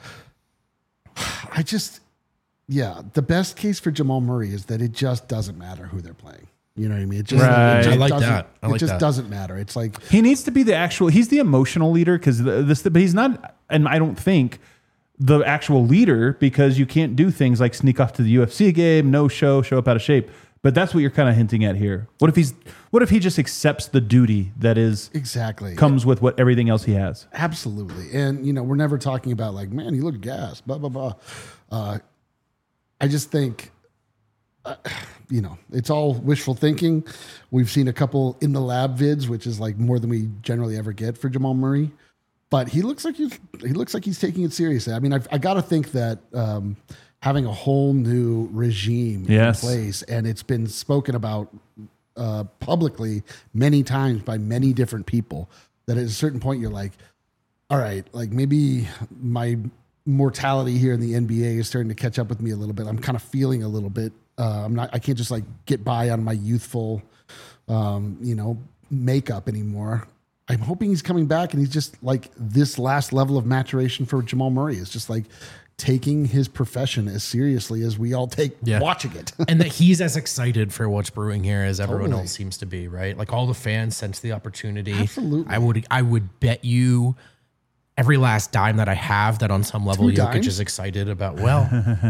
I just, yeah, the best case for Jamal Murray is that it just doesn't matter who they're playing. You know what I mean? It just, Right. it just I like doesn't- that. I like it just that. doesn't matter. It's like, He needs to be the actual. He's the emotional leader because this, but he's not. And I don't think the actual leader because you can't do things like sneak off to the U F C game, no show, show up out of shape. But that's what you're kind of hinting at here. What if he's? What if he just accepts the duty that is exactly. comes with what everything else he has? Absolutely. And, you know, we're never talking about like, man, he looked gassed, blah, blah, blah. Uh, I just think, uh, you know, it's all wishful thinking. We've seen a couple in the lab vids, which is like more than we generally ever get for Jamal Murray. But he looks like he's, he looks like he's taking it seriously. I mean, I've, I got to think that um, having a whole new regime Yes. in place, and it's been spoken about uh, publicly many times by many different people, that at a certain point you're like, all right, like maybe my mortality here in the N B A is starting to catch up with me a little bit. I'm kind of feeling a little bit. Uh, I'm not. I can't just like get by on my youthful, um, you know, makeup anymore. I'm hoping he's coming back, and he's just like this last level of maturation for Jamal Murray is just like taking his profession as seriously as we all take Yeah. watching it. And that he's as excited for what's brewing here as everyone Totally. else seems to be, right? Like all the fans sense the opportunity. Absolutely. I would I would bet you every last dime that I have that on some level Two Jokic dimes? is excited about. Well,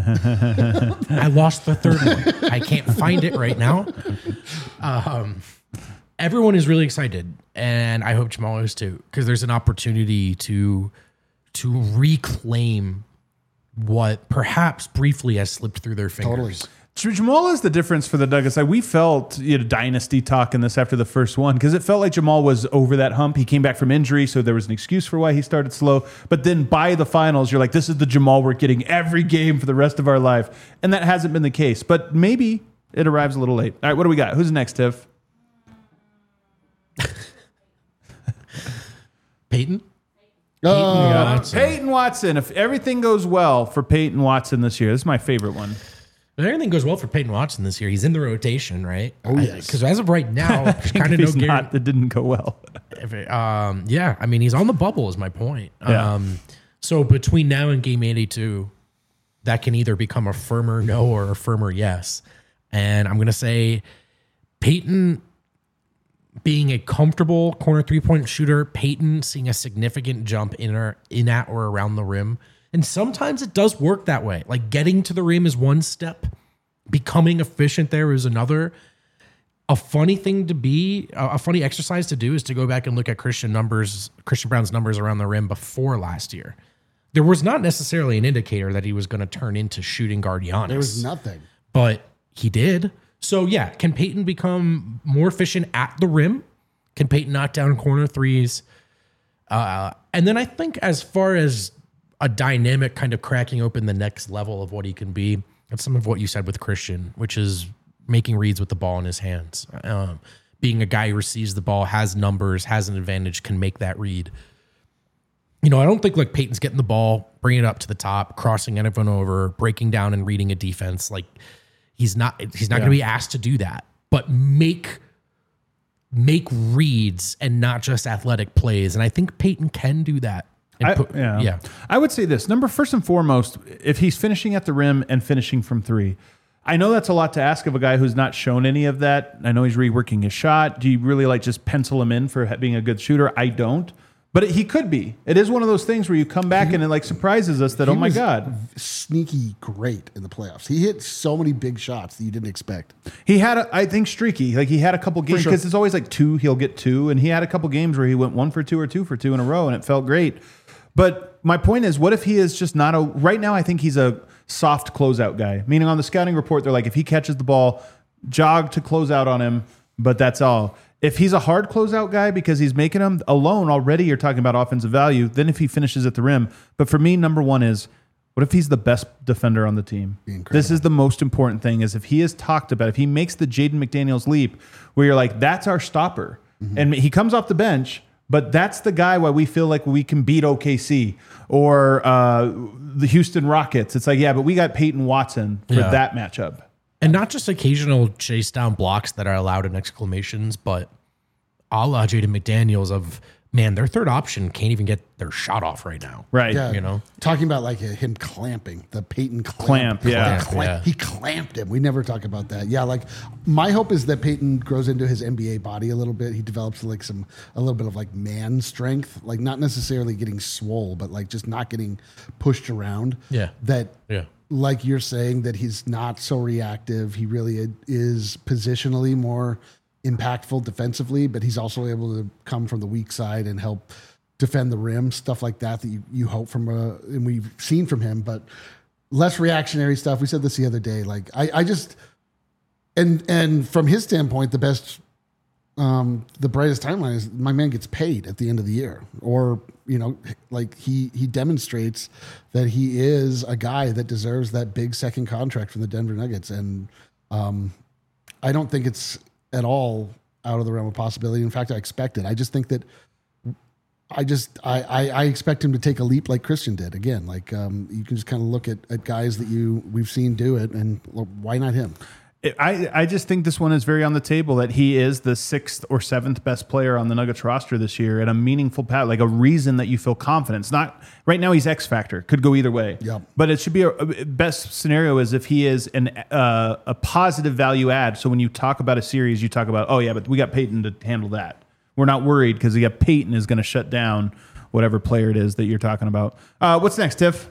I lost the third one. I can't find it right now. Um, everyone is really excited, and I hope Jamal is too, because there's an opportunity to to reclaim what perhaps briefly has slipped through their Totally. fingers. Jamal is the difference for the Nuggets. Like we felt, you know, dynasty talk in this after the first one because it felt like Jamal was over that hump. He came back from injury, so there was an excuse for why he started slow. But then by the finals, you're like, this is the Jamal we're getting every game for the rest of our life, and that hasn't been the case. But maybe it arrives a little late. All right, what do we got? Who's next, Tiff? Peyton? Uh, Watson. Peyton Watson. If everything goes well for Peyton Watson this year, this is my favorite one. If everything goes well for Peyton Watson this year, he's in the rotation, right? Oh, yes. Because as of right now, there's kind of If no he's guarantee. not, that didn't go well. If it- um, yeah, I mean, he's on the bubble is my point. Yeah. Um, so between now and game eighty-two, that can either become a firmer no or a firmer yes. And I'm going to say Peyton being a comfortable corner three-point shooter, Peyton seeing a significant jump in or in at or around the rim. And sometimes it does work that way. Like getting to the rim is one step, becoming efficient there is another. A funny thing to be, a funny exercise to do is to go back and look at Christian numbers, Christian Brown's numbers around the rim before last year. There was not necessarily an indicator that he was going to turn into shooting guard Giannis. there was nothing. But he did. So yeah, can Peyton become more efficient at the rim? Can Peyton knock down corner threes? Uh, and then I think as far as a dynamic kind of cracking open the next level of what he can be, that's some of what you said with Christian, which is making reads with the ball in his hands. Um, being a guy who receives the ball, has numbers, has an advantage, can make that read. You know, I don't think like Peyton's getting the ball, bringing it up to the top, crossing everyone over, breaking down and reading a defense. Like he's not, he's not Yeah. going to be asked to do that, but make, make reads and not just athletic plays. And I think Peyton can do that. And I, put- yeah. yeah. I would say this. Number first and foremost, if he's finishing at the rim and finishing from three, I know that's a lot to ask of a guy who's not shown any of that. I know he's reworking his shot. Do you really like just pencil him in for ha- being a good shooter? I don't. But it, he could be. It is one of those things where you come back and it like surprises us that, He oh my was God. sneaky great in the playoffs. He hit so many big shots that you didn't expect. He had, a, I think, streaky. Like he had a couple games sure. because it's always like two, he'll get two. And he had a couple games where he went one for two or two for two in a row and it felt great. But my point is, what if he is just not a, right now I think he's a soft closeout guy. Meaning on the scouting report, they're like, if he catches the ball, jog to close out on him, but that's all. If he's a hard closeout guy because he's making them alone already, you're talking about offensive value. Then if he finishes at the rim. But for me, number one is, what if he's the best defender on the team? Incredible. This is the most important thing is if he is talked about, if he makes the Jaden McDaniels leap where you're like, that's our stopper. Mm-hmm. And he comes off the bench, but that's the guy why we feel like we can beat O K C or uh, the Houston Rockets. It's like, yeah, but we got Peyton Watson for Yeah. that matchup. And not just occasional chase down blocks that are allowed in exclamations, but a la Jaden McDaniels of man, their third option can't even get their shot off right now. Right. Yeah, You know? talking about like him clamping the Peyton Clamp, clamp. yeah. The clamp- Yeah. He clamped him. We never talk about that. Yeah, like my hope is that Peyton grows into his N B A body a little bit. He develops like some a little bit of like man strength, like not necessarily getting swole, but like just not getting pushed around. Yeah. That Yeah. like you're saying that he's not so reactive. He really is positionally more impactful defensively, but he's also able to come from the weak side and help defend the rim, stuff like that that you, you hope from a, and we've seen from him, but less reactionary stuff. We said this the other day. Like I, I just and and from his standpoint, the best um the brightest timeline is my man gets paid at the end of the year. Or, you know, like he he demonstrates that he is a guy that deserves that big second contract from the Denver Nuggets. And um I don't think it's at all out of the realm of possibility. In fact, I expect it. I just think that I just I, I I expect him to take a leap like Christian did. Again, like um, you can just kind of look at, at guys that you we've seen do it, and well, why not him? I, I just think this one is very on the table that he is the sixth or seventh best player on the Nuggets roster this year and a meaningful path, like a reason that you feel confident. It's not right now. He's X factor, could go either way. Yep. But it should be a, a best scenario is if he is an uh, a positive value add. So when you talk about a series, you talk about, oh yeah, but we got Peyton to handle that. We're not worried because we got Peyton is going to shut down whatever player it is that you're talking about. Uh, what's next, Tiff?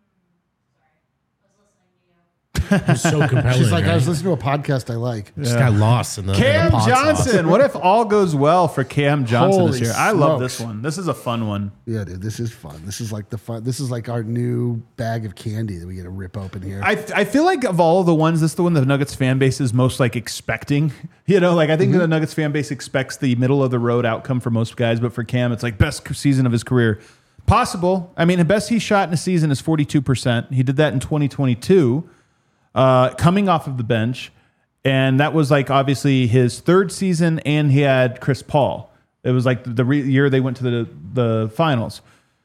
It's so compelling. She's like, right? I was listening to a podcast I like. Just got lost in the in Cam the pod Johnson. sauce. What if all goes well for Cam Johnson Holy this year? I love smokes. this one. This is a fun one. Yeah, dude, this is fun. This is like the fun. This is like our new bag of candy that we get to rip open here. I I feel like of all of the ones, this is the one the Nuggets fan base is most like expecting. You know, like I think the Nuggets fan base expects the middle of the road outcome for most guys, but for Cam, it's like best season of his career. Possible. I mean, the best he shot in a season is forty-two percent. He did that in twenty twenty-two. Uh, coming off of the bench, and that was like obviously his third season, and he had Chris Paul. It was like the re- year they went to the the finals.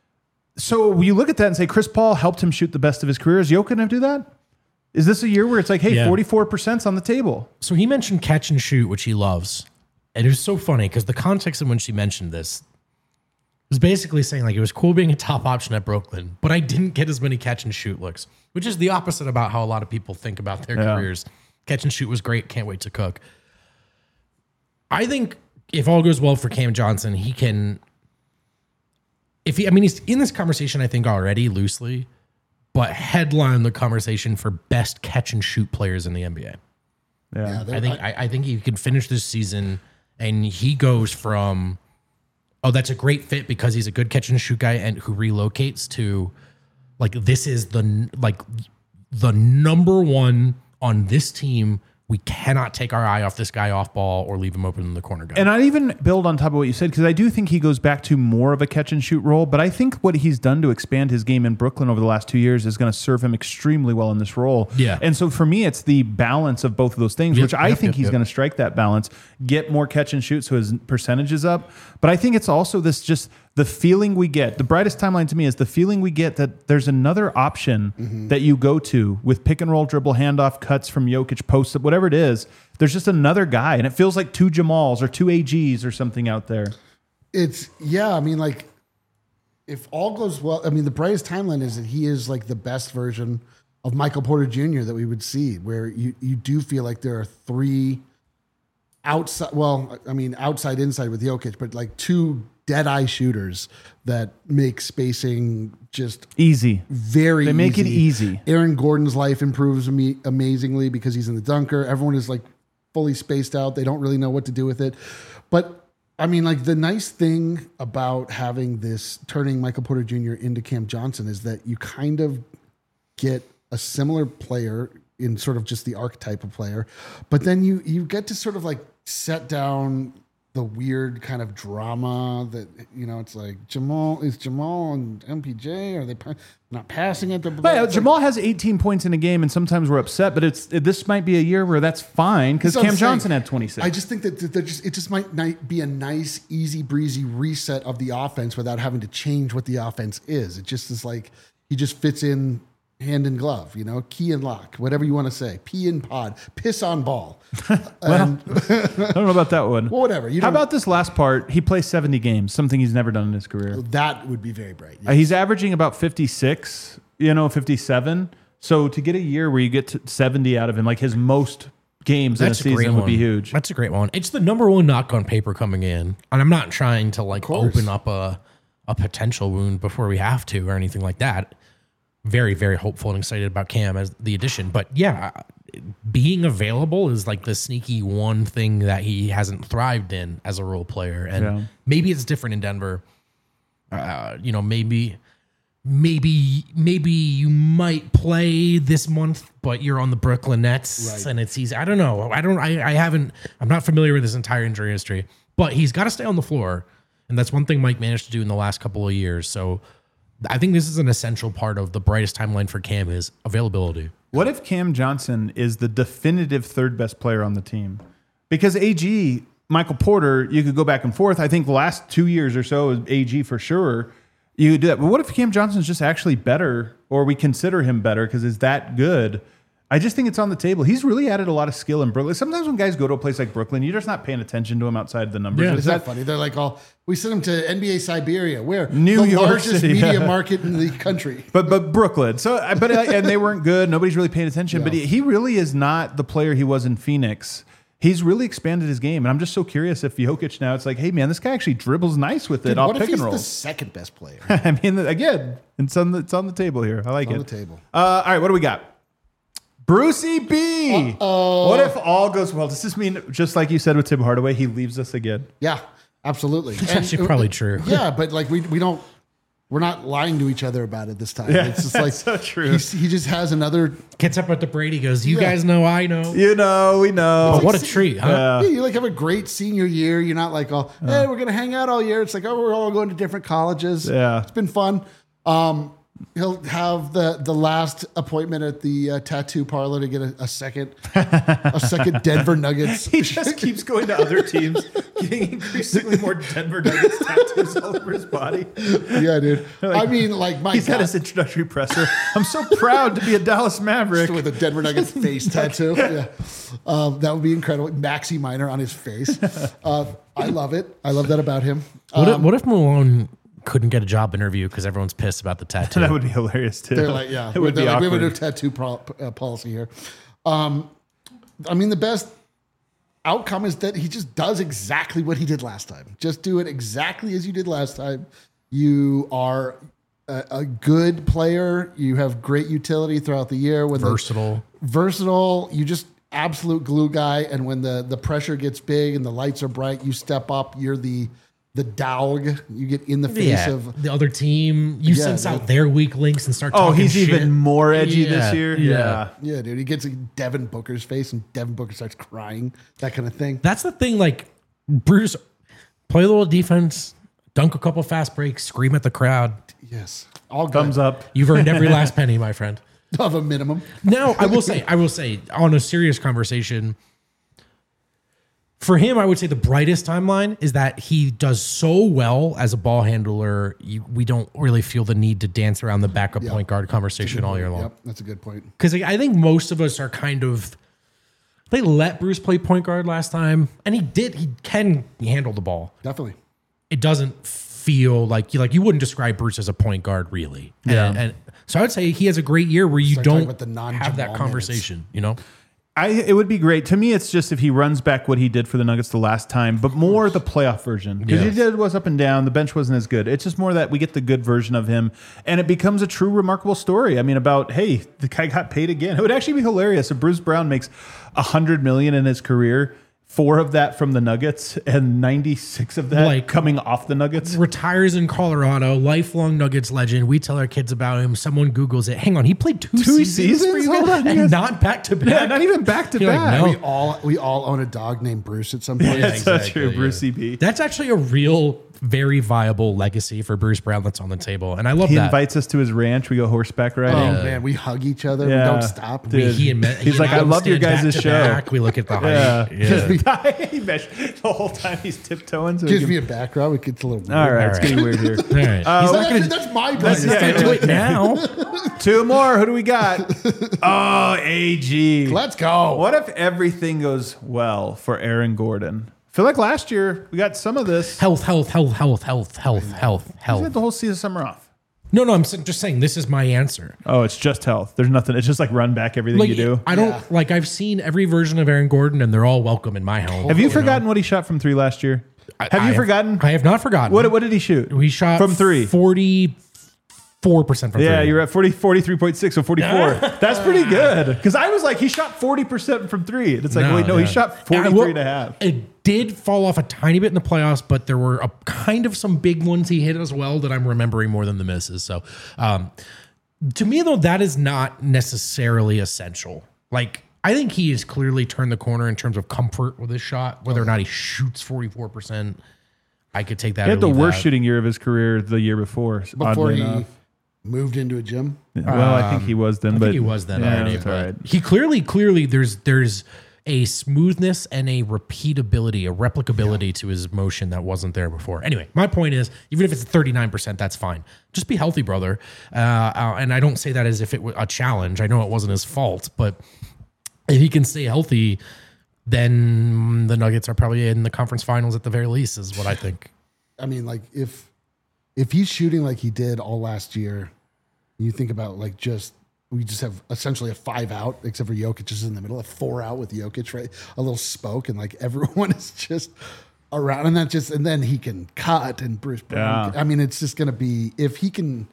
So you look at that and say Chris Paul helped him shoot the best of his career. Is Jokic do that? Is this a year where it's like, hey, Yeah. forty-four percent's on the table? So he mentioned catch and shoot, which he loves. And it was so funny because the context in when she mentioned this was basically saying like it was cool being a top option at Brooklyn, but I didn't get as many catch and shoot looks, which is the opposite about how a lot of people think about their Yeah. careers. Catch and shoot was great. Can't wait to cook. I think if all goes well for Cam Johnson, he can, if he, I mean, he's in this conversation, I think already loosely, but headline the conversation for best catch and shoot players in the N B A. Yeah. they're- I think I, I think he can finish this season, and he goes from, oh, that's a great fit because he's a good catch and shoot guy and who relocates to, like, this is the like the number one on this team. We cannot take our eye off this guy off ball or leave him open in the corner guy. And I'd even build on top of what you said, because I do think he goes back to more of a catch and shoot role. But I think what he's done to expand his game in Brooklyn over the last two years is going to serve him extremely well in this role. Yeah. And so for me, it's the balance of both of those things, Yep, which I yep, think yep, he's yep. going to strike that balance, get more catch and shoot so his percentage is up. But I think it's also this just the feeling we get. The brightest timeline to me is the feeling we get that there's another option Mm-hmm. that you go to with pick and roll, dribble, handoff, cuts from Jokic, post up, whatever it is. There's just another guy, and it feels like two Jamals or two A Gs or something out there. It's yeah. I mean, like, if all goes well, I mean, the brightest timeline is that he is like the best version of Michael Porter Junior that we would see, where you you do feel like there are three outside. Well, I mean, outside inside with Jokic, but like two dead eye shooters that make spacing just Easy. very. They make it easy. Aaron Gordon's life improves ama- amazingly because he's in the dunker. Everyone is like fully spaced out. They don't really know what to do with it. But I mean, like the nice thing about having this turning Michael Porter Junior into Cam Johnson is that you kind of get a similar player in sort of just the archetype of player, but then you you get to sort of like set down the weird kind of drama that, you know, it's like Jamal is Jamal and M P J, are they pa- not passing it? But yeah, Jamal has eighteen points in a game, and sometimes we're upset. But it's this might be a year where that's fine because That's what Cam I'm saying. Johnson had twenty-six. I just think that that just it just might not be a nice, easy breezy reset of the offense without having to change what the offense is. It just is like he just fits in hand in glove, you know, key and lock, whatever you want to say, pee in pod, piss on ball. well, And- I don't know about that one. well, whatever. You How don't- about this last part? He plays seventy games, something he's never done in his career. that would be very bright. Uh, he's averaging about fifty-six, you know, fifty-seven. So to get a year where you get to seventy out of him, like his most games That's in a a great season would one. be huge. That's a great one. It's the number one knock on paper coming in, and I'm not trying to like course. open up a a potential wound before we have to or anything like that. Very, very hopeful and excited about Cam as the addition. But yeah, being available is like the sneaky one thing that he hasn't thrived in as a role player. And Yeah. maybe it's different in Denver. Uh, you know, maybe, maybe, maybe you might play this month, but you're on the Brooklyn Nets Right. and it's easy. I don't know. I don't, I, I haven't, I'm not familiar with his entire injury history, but he's got to stay on the floor. And that's one thing Mike managed to do in the last couple of years. So I think this is an essential part of the brightest timeline for Cam is availability. What if Cam Johnson is the definitive third best player on the team? Because A G, Michael Porter, you could go back and forth. I think the last two years or so is A G for sure. You could do that. But what if Cam Johnson's just actually better, or we consider him better because he's that good? I just think it's on the table. He's really added a lot of skill in Brooklyn. Sometimes when guys go to a place like Brooklyn, you're just not paying attention to him outside the numbers. Yeah. Is Isn't that that funny? They're like, all we sent him to N B A Siberia, where New the York largest City, media yeah. market in the country. But but Brooklyn. So I- but uh, and they weren't good. Nobody's really paying attention. But Yeah. he, he really is not the player he was in Phoenix. He's really expanded his game, and I'm just so curious if Jokic now. It's like, hey man, this guy actually dribbles nice with it Dude, off what if pick he's and roll. the second best player I mean, again, it's on the it's on the table here. I like on it. the table? Uh, all right, what do we got? Brucey B. What if all goes well? Does this mean, just like you said with Tim Hardaway, he leaves us again? Yeah, absolutely. It's actually probably true. Yeah, but like we we don't. We're not lying to each other about it this time. It's just like so true. he's, he just has another. Gets up at the Brady, goes, you Yeah. guys know, I know. You know, we know. But what a treat, huh? Yeah, you like have a great senior year. You're not like, oh, hey, we're gonna hang out all year. It's like, oh, we're all going to different colleges. Yeah. It's been fun. Um, he'll have the the last appointment at the uh, tattoo parlor to get a, a second a second Denver Nuggets. He just keeps going to other teams, getting increasingly more Denver Nuggets tattoos all over his body. Yeah, dude. I mean, like my He's God, had his introductory presser. I'm so proud to be a Dallas Maverick. with a Denver Nuggets face tattoo. Yeah, um, that would be incredible. Maxi Minor on his face. Uh, I love it. I love that about him. What, Um, if, what if Malone couldn't get a job interview because everyone's pissed about the tattoo? That would be hilarious too. They're like, yeah, it would they're be like, we have a new awkward. tattoo pro- uh, policy here. Um, I mean, the best outcome is that he just does exactly what he did last time. Just do it exactly as you did last time. You are a, a good player. You have great utility throughout the year. When the- Versatile. versatile. You just absolute glue guy. And when the the pressure gets big and the lights are bright, you step up. You're the the dog. You get in the face Yeah, of. the other team. You Yeah, sense dude. out their weak links and start Oh, talking he's shit. even more edgy Yeah, this year. yeah. Yeah, dude. He gets in Devin Booker's face and Devin Booker starts crying. That kind of thing. That's the thing. Like, Bruce, play a little defense, dunk a couple fast breaks, scream at the crowd. Yes. All good. Thumbs up. You've earned every last penny, my friend. Of a minimum. Now, I will say, I will say, on a serious conversation, for him, I would say the brightest timeline is that he does so well as a ball handler. You, we don't really feel the need to dance around the backup point guard conversation all year long. Yep, that's a good point. Because I think most of us are kind of, they let Bruce play point guard last time, and he did. He can handle the ball. Definitely. It doesn't feel like you like you wouldn't describe Bruce as a point guard, really. Yeah. And, and so I would say he has a great year where you Start talking don't about the non-Jamal have that minutes. conversation. You know. I, it would be great. To me, it's just if he runs back what he did for the Nuggets the last time, but more the playoff version. Because Yeah. he did was up and down. The bench wasn't as good. It's just more that we get the good version of him, and it becomes a true remarkable story. I mean, about, hey, the guy got paid again. It would actually be hilarious if Bruce Brown makes a hundred million in his career, four of that from the Nuggets, and ninety-six of that Like- coming off the Nuggets. Retires in Colorado, lifelong Nuggets legend. We tell our kids about him. Someone Googles it. Hang on, he played two, Two seasons, for seasons? you Hold guys? on, you and guys- not back to back. Yeah, not even back to You're like, back. no. We all we all own a dog named Bruce at some point. That's so exactly, true, yeah. Brucey B. That's actually a real, very viable legacy for Bruce Brown that's on the table, and I love He that. invites us to his ranch. We go horseback Oh riding. man, we hug each other. Yeah. We don't stop. Dude. We- he and, He's like, I love your guys' show. Back. We look at the height. Yeah. Yeah. We, he measured the whole time he's tiptoeing. So he Gives can- me a background. It gets a little weird. all right, All it's right. getting weird here. All right. Uh, He's we're like, gonna- actually, that's my Let's brother. yeah, do it now. Two more. Who do we got? Oh, A G. Let's go. What if everything goes well for Aaron Gordon? I feel like last year we got some of this. Health, health, health, health, health, health, health, He's health. had the whole season summer off. No, no, I'm s- just saying this is my answer. Oh, it's just health. There's nothing. It's just like run back everything Like you do. I don't Yeah. like I've seen every version of Aaron Gordon and they're all welcome in my home. Have you know? forgotten what he shot from three last year? I- Have I you forgotten? I have not forgotten. What, what did he shoot? we shot from three. forty-four percent from Yeah, three. you're at forty, forty-three point six, so forty-four. That's pretty good. Because I was like, he shot forty percent from three. And it's like, wait, no, he yeah. shot Yeah, forty-three well, and a half. It did fall off a tiny bit in the playoffs, but there were a kind of some big ones he hit as well that I'm remembering more than the misses. So, um, to me, though, that is not necessarily essential. Like, I think he has clearly turned the corner in terms of comfort with his shot. Whether or not he shoots forty-four percent, I could take that. He or had the leave worst that. shooting year of his career the year before. Before oddly he enough. moved into a gym. Well, I think he was then, I but think he was then yeah, already. that's all but right. He clearly, clearly, there's there's a smoothness and a repeatability, a replicability to his motion that wasn't there before. Anyway, my point is, even if it's thirty-nine percent, that's fine. Just be healthy, brother. Uh, uh, and I don't say that as if it were a challenge. I know it wasn't his fault, but if he can stay healthy, then the Nuggets are probably in the conference finals at the very least, is what I think. I mean, like if if he's shooting like he did all last year, you think about like just we just have essentially a five out, except for Jokic is in the middle, a four out with Jokic, right? A little spoke, and like everyone is just around, and that just and then he can cut and Bruce Brown. Yeah. I mean, it's just gonna be if he can.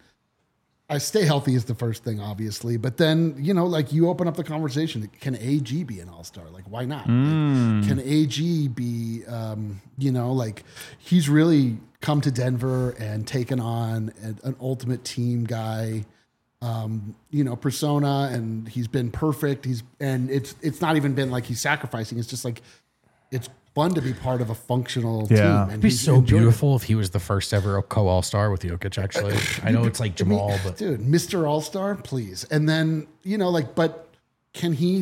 I stay healthy is the first thing, obviously, but then you know, like you open up the conversation. Can A G be an all star? Like, why not? Like, can A G be? Um, you know, like he's really come to Denver and taken on an, an ultimate team guy. Um, you know, persona, and he's been perfect. He's and it's it's not even been like he's sacrificing. It's just like it's fun to be part of a functional Yeah. team. And It'd be he's so enjoyed it. beautiful if he was the first ever co all star with Jokic. Actually, I know it's like Jamal, but dude, Mister All-Star, please. And then, you know, like, but can he,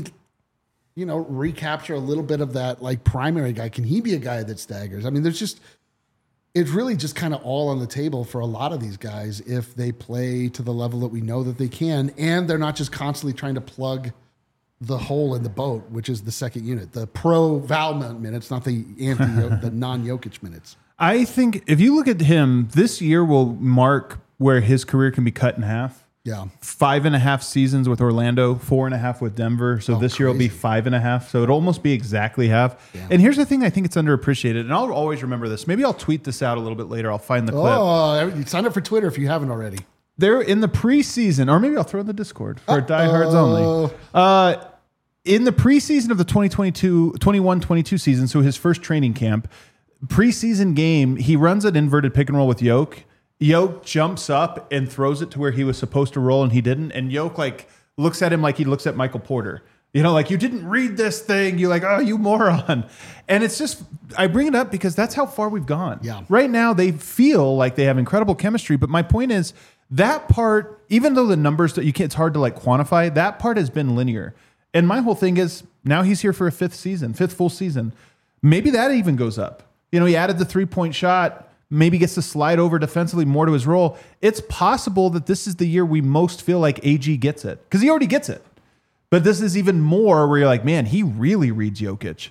you know, recapture a little bit of that like primary guy? Can he be a guy that staggers? I mean, there's just, it's really just kind of all on the table for a lot of these guys if they play to the level that we know that they can, and they're not just constantly trying to plug the hole in the boat, which is the second unit, the pro Val minutes, not the anti, the non-Jokic minutes. I think if you look at him, this year will mark where his career can be cut in half. Yeah. Five and a half seasons with Orlando, four and a half with Denver. So Oh, this year will be crazy. five and a half. So it'll almost be exactly half. Yeah. And here's the thing I think it's underappreciated. And I'll always remember this. Maybe I'll tweet this out a little bit later. I'll find the clip. Oh, sign up for Twitter if you haven't already. They're in the preseason, or maybe I'll throw in the Discord for diehards only. Uh, in the preseason of the twenty twenty-two, twenty-one twenty-two season, so his first training camp, preseason game, he runs an inverted pick and roll with Yoke. Yoke jumps up and throws it to where he was supposed to roll, and he didn't. And Yoke like looks at him like he looks at Michael Porter. You know, like, you didn't read this thing. You're like, oh, you moron. And it's just, I bring it up because that's how far we've gone. Yeah. Right now, they feel like they have incredible chemistry. But my point is, that part, even though the numbers that you can't, it's hard to like quantify, that part has been linear. And my whole thing is, now he's here for a fifth season, fifth full season. Maybe that even goes up. You know, he added the three point shot, maybe gets to slide over defensively more to his role. It's possible that this is the year we most feel like A G gets it, because he already gets it. But this is even more where you're like, man, he really reads Jokic.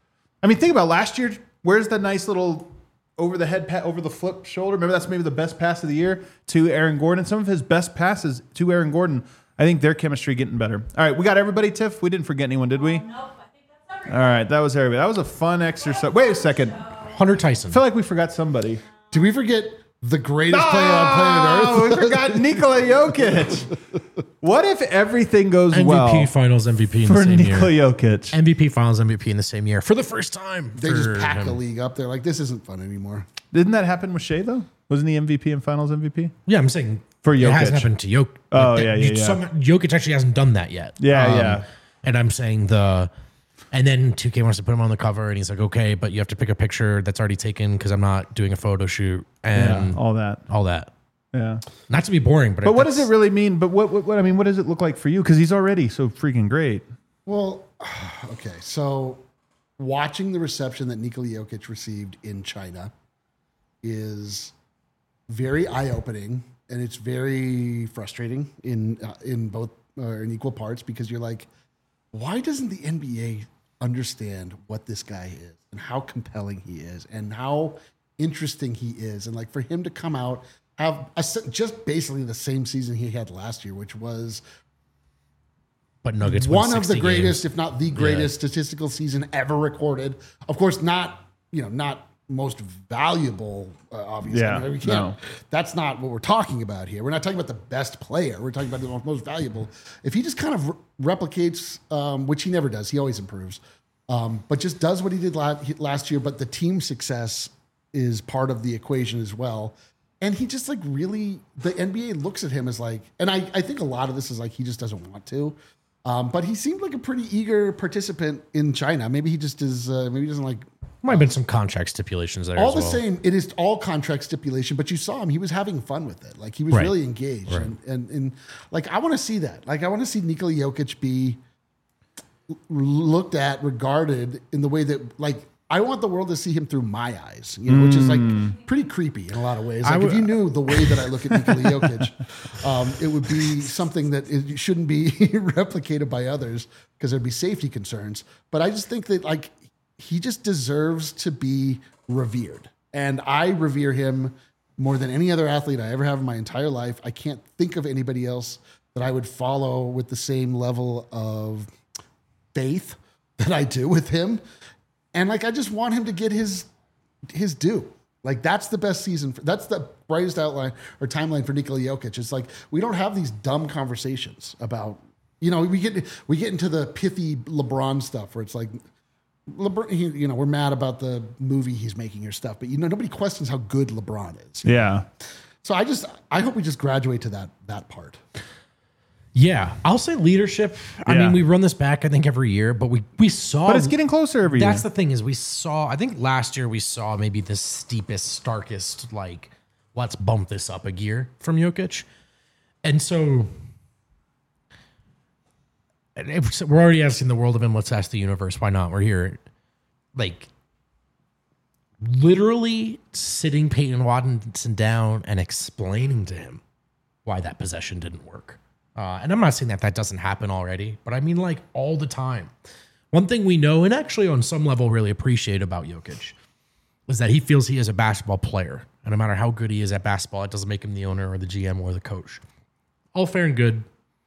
I mean, think about last year. Where's the nice little over the head, pa- over the flip shoulder? Remember, that's maybe the best pass of the year to Aaron Gordon. Some of his best passes to Aaron Gordon. I think their chemistry getting better. All right, we got everybody, Tiff. We didn't forget anyone, did we? Nope, I think that's everything. All right, that was everybody. That was a fun exercise. Wait a second. I Hunter Tyson. feel like we forgot somebody. Did we forget the greatest player on planet Oh, Earth? we forgot Nikola Jokic. What if everything goes M V P well Finals M V P in the for same Nikola year. Jokic? M V P Finals M V P in the same year for the first time. They for just packed him. the league up. They're like, this isn't fun anymore. Didn't that happen with Shea though? Wasn't he M V P and Finals M V P? Yeah, I'm saying For it Jokic. hasn't happened to Jokic. Oh, Like, yeah, you- yeah, yeah. some- Jokic actually hasn't done that yet. Yeah, yeah. And I'm saying the, and then two K wants to put him on the cover, and he's like, okay, but you have to pick a picture that's already taken because I'm not doing a photo shoot and Yeah, all that. all that. Yeah. Not to be boring, but But what does that's- it really mean? But what, what, what I mean, what does it look like for you? Because he's already so freaking great. Well, okay. So watching the reception that Nikola Jokic received in China is very eye-opening, and it's very frustrating in uh, in both uh, in equal parts, because you're like, why doesn't the N B A understand what this guy is and how compelling he is and how interesting he is? And like, for him to come out, have a, just basically the same season he had last year, which was But Nuggets win one of the sixty greatest, games. if not the greatest statistical season ever recorded. Of course, not, you know, not most valuable, uh, obviously. Yeah, I mean, we can't, no. That's not what we're talking about here. We're not talking about the best player. We're talking about the most, most valuable. If he just kind of re- replicates, um, which he never does, he always improves, um, but just does what he did la- last year, but the team success is part of the equation as well. And he just like really, the N B A looks at him as like, and I, I think a lot of this is like, he just doesn't want to. Um, but he seemed like a pretty eager participant in China. Maybe he just is, uh, maybe he doesn't like. Might have been some contract stipulations there All as the well. same, it is all contract stipulation, but you saw him, he was having fun with it. Like he was Right. really engaged. Right. And, and, and like, I want to see that. Like, I want to see Nikola Jokic be looked at, regarded in the way that, like, I want the world to see him through my eyes, you know, which is like pretty creepy in a lot of ways. Like I would- if you knew the way that I look at Nikola Jokic, um, it would be something that it shouldn't be replicated by others because there'd be safety concerns. But I just think that like he just deserves to be revered, and I revere him more than any other athlete I ever have in my entire life. I can't think of anybody else that I would follow with the same level of faith that I do with him. And like, I just want him to get his his due. Like, that's the best season. For, that's the brightest outline or timeline for Nikola Jokic. It's like, we don't have these dumb conversations about, you know, we get we get into the pithy LeBron stuff where it's like, LeBron, he, you know, we're mad about the movie he's making or stuff, but you know, nobody questions how good LeBron is. Yeah. So I just, I hope we just graduate to that that part. Yeah, I'll say leadership. I Yeah. mean, we run this back, I think, every year, but we we saw. But it's getting closer every year. That's the thing is we saw. I think last year we saw maybe the steepest, starkest, like, let's bump this up a gear from Jokic, and so. And if we're already asking the world of him. Let's ask the universe. Why not? We're here. Like, literally sitting Peyton Watson down and explaining to him why that possession didn't work. Uh, and I'm not saying that that doesn't happen already, but I mean like all the time. One thing we know, and actually on some level really appreciate about Jokic, is that he feels he is a basketball player. And no matter how good he is at basketball, it doesn't make him the owner or the G M or the coach. All fair and good.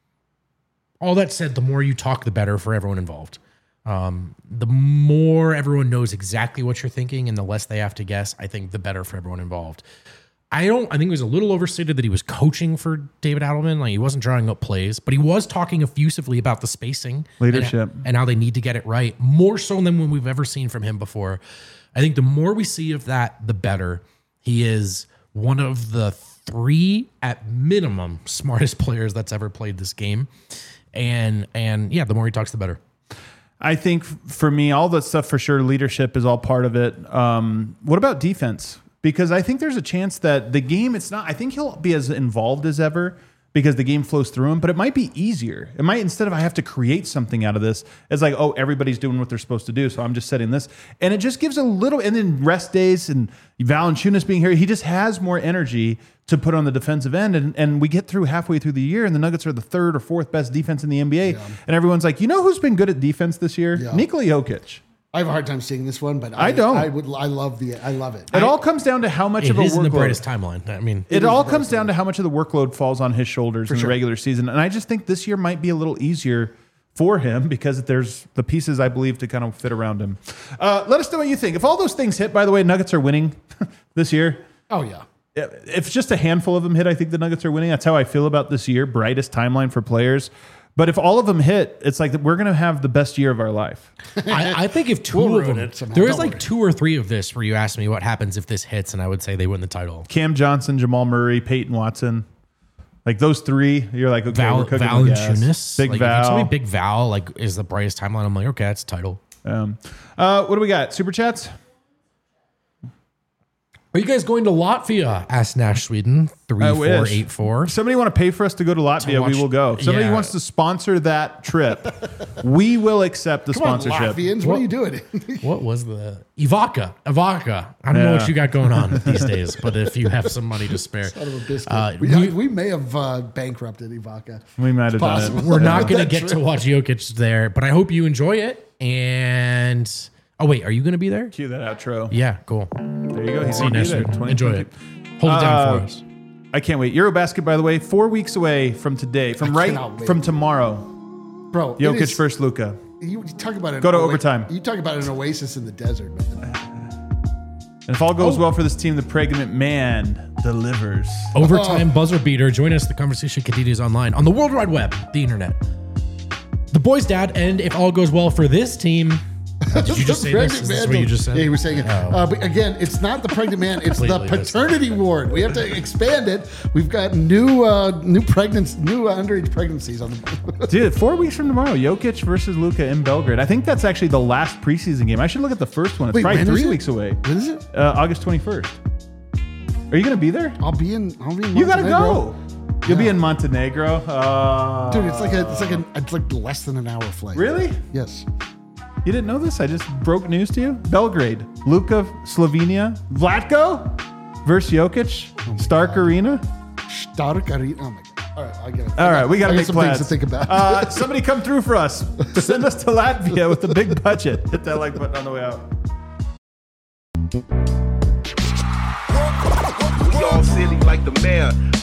All that said, the more you talk, the better for everyone involved. Um, the more everyone knows exactly what you're thinking and the less they have to guess, I think the better for everyone involved. I don't, I think it was a little overstated that he was coaching for David Adelman. Like, he wasn't drawing up plays, but he was talking effusively about the spacing, Leadership. and, and how they need to get it right, more so than when we've ever seen from him before. I think the more we see of that, the better. He is one of the three, at minimum, smartest players that's ever played this game. And, and yeah, the more he talks, the better. I think for me, all that stuff for sure, leadership is all part of it. Um, what about defense? Because I think there's a chance that the game, it's not, I think he'll be as involved as ever because the game flows through him, but it might be easier. It might, instead of I have to create something out of this, it's like, oh, everybody's doing what they're supposed to do, so I'm just setting this. And it just gives a little, and then rest days and Valanciunas being here, he just has more energy to put on the defensive end. And, and we get through halfway through the year, and the Nuggets are the third or fourth best defense in the N B A. Yeah. And everyone's like, you know who's been good at defense this year? Yeah. Nikola Jokic. I have a hard time seeing this one, but I I, don't. I would. I love the. I love it. It all comes down to how much It of a is in the workload. brightest timeline. I mean, It, is all the comes brightest down to how much of the workload falls on his shoulders in sure. the regular season. And I just think this year might be a little easier for him because there's the pieces, I believe, to kind of fit around him. Uh, let us know what you think. If all those things hit, by the way, Nuggets are winning this year. Oh yeah. If just a handful of them hit, I think the Nuggets are winning. That's how I feel about this year. Brightest timeline for players. But if all of them hit, it's like we're going to have the best year of our life. I, I think if two We'll of ruin them, it somehow. there was Don't like worry. two or three of this where you asked me what happens if this hits, and I would say they win the title. Cam Johnson, Jamal Murray, Peyton Watson. Like those three, you're like, okay, Val, we're cooking Val with and gas. Tunis. Big like, If you Val. tell me Big Val like is the brightest timeline, I'm like, okay, that's a title. Um, uh, what do we got? Super chats? Are you guys going to Latvia? Asked Nash Sweden three I four wish. eight four. Somebody want to pay for us to go to Latvia, watch- we will go. If somebody yeah. wants to sponsor that trip, we will accept the Come on, sponsorship. Latvians, what are you doing? What was the Ivaka? Ivaka. I don't know Yeah. what you got going on these days, but if you have some money to spare, Son of a biscuit. uh, we, we- we may have uh, bankrupted Ivaka. We might have done Possible. it. we're not going to That get trip. to watch Jokic there, but I hope you enjoy it. And oh wait, are you going to be there? Cue that outro. Yeah, cool. There you go. He's See you gonna next be there. week. twenty Enjoy it. Hold it down Uh, for us. I can't wait. Eurobasket, by the way, four weeks away from today, from right cannot wait. from tomorrow. Bro, it Jokic is- versus Luka. You, you talk about an Go to oa- overtime. You talk about an oasis in the desert, man. And if all goes Oh. well for this team, the pregnant man delivers. Overtime buzzer beater. Join us. The conversation continues online on the World Wide Web, the internet. The boys' dad, and if all goes well for this team. Did you just say this? Is this what you just said? Yeah, he was saying it. Oh. Uh, but again, it's not the pregnant man; it's the Completely missed paternity ward. We have to expand it. We've got new, uh, new pregnancy, new uh, underage pregnancies on the. Dude, four weeks from tomorrow, Jokic versus Luka in Belgrade. I think that's actually the last preseason game. I should look at the first one. It's Wait, probably when is three it? weeks away. What is it? Uh, August twenty-first. Are you going to be there? I'll be in. I'll be in. You got to Montenegro. go. You'll be in Montenegro. Uh, dude. It's like a, it's like a, it's like less than an hour flight. Really? Yes. You didn't know this? I just broke news to you. Belgrade, Luka, Slovenia, Vlatko versus Jokic, Stark Arena. Stark Arena. Oh my god. All right, I get it. All right, we got to I make some plans. things to think about. Uh, somebody come through for us. Send us to Latvia with a big budget. Hit that like button on the way out. We all silly like the mayor.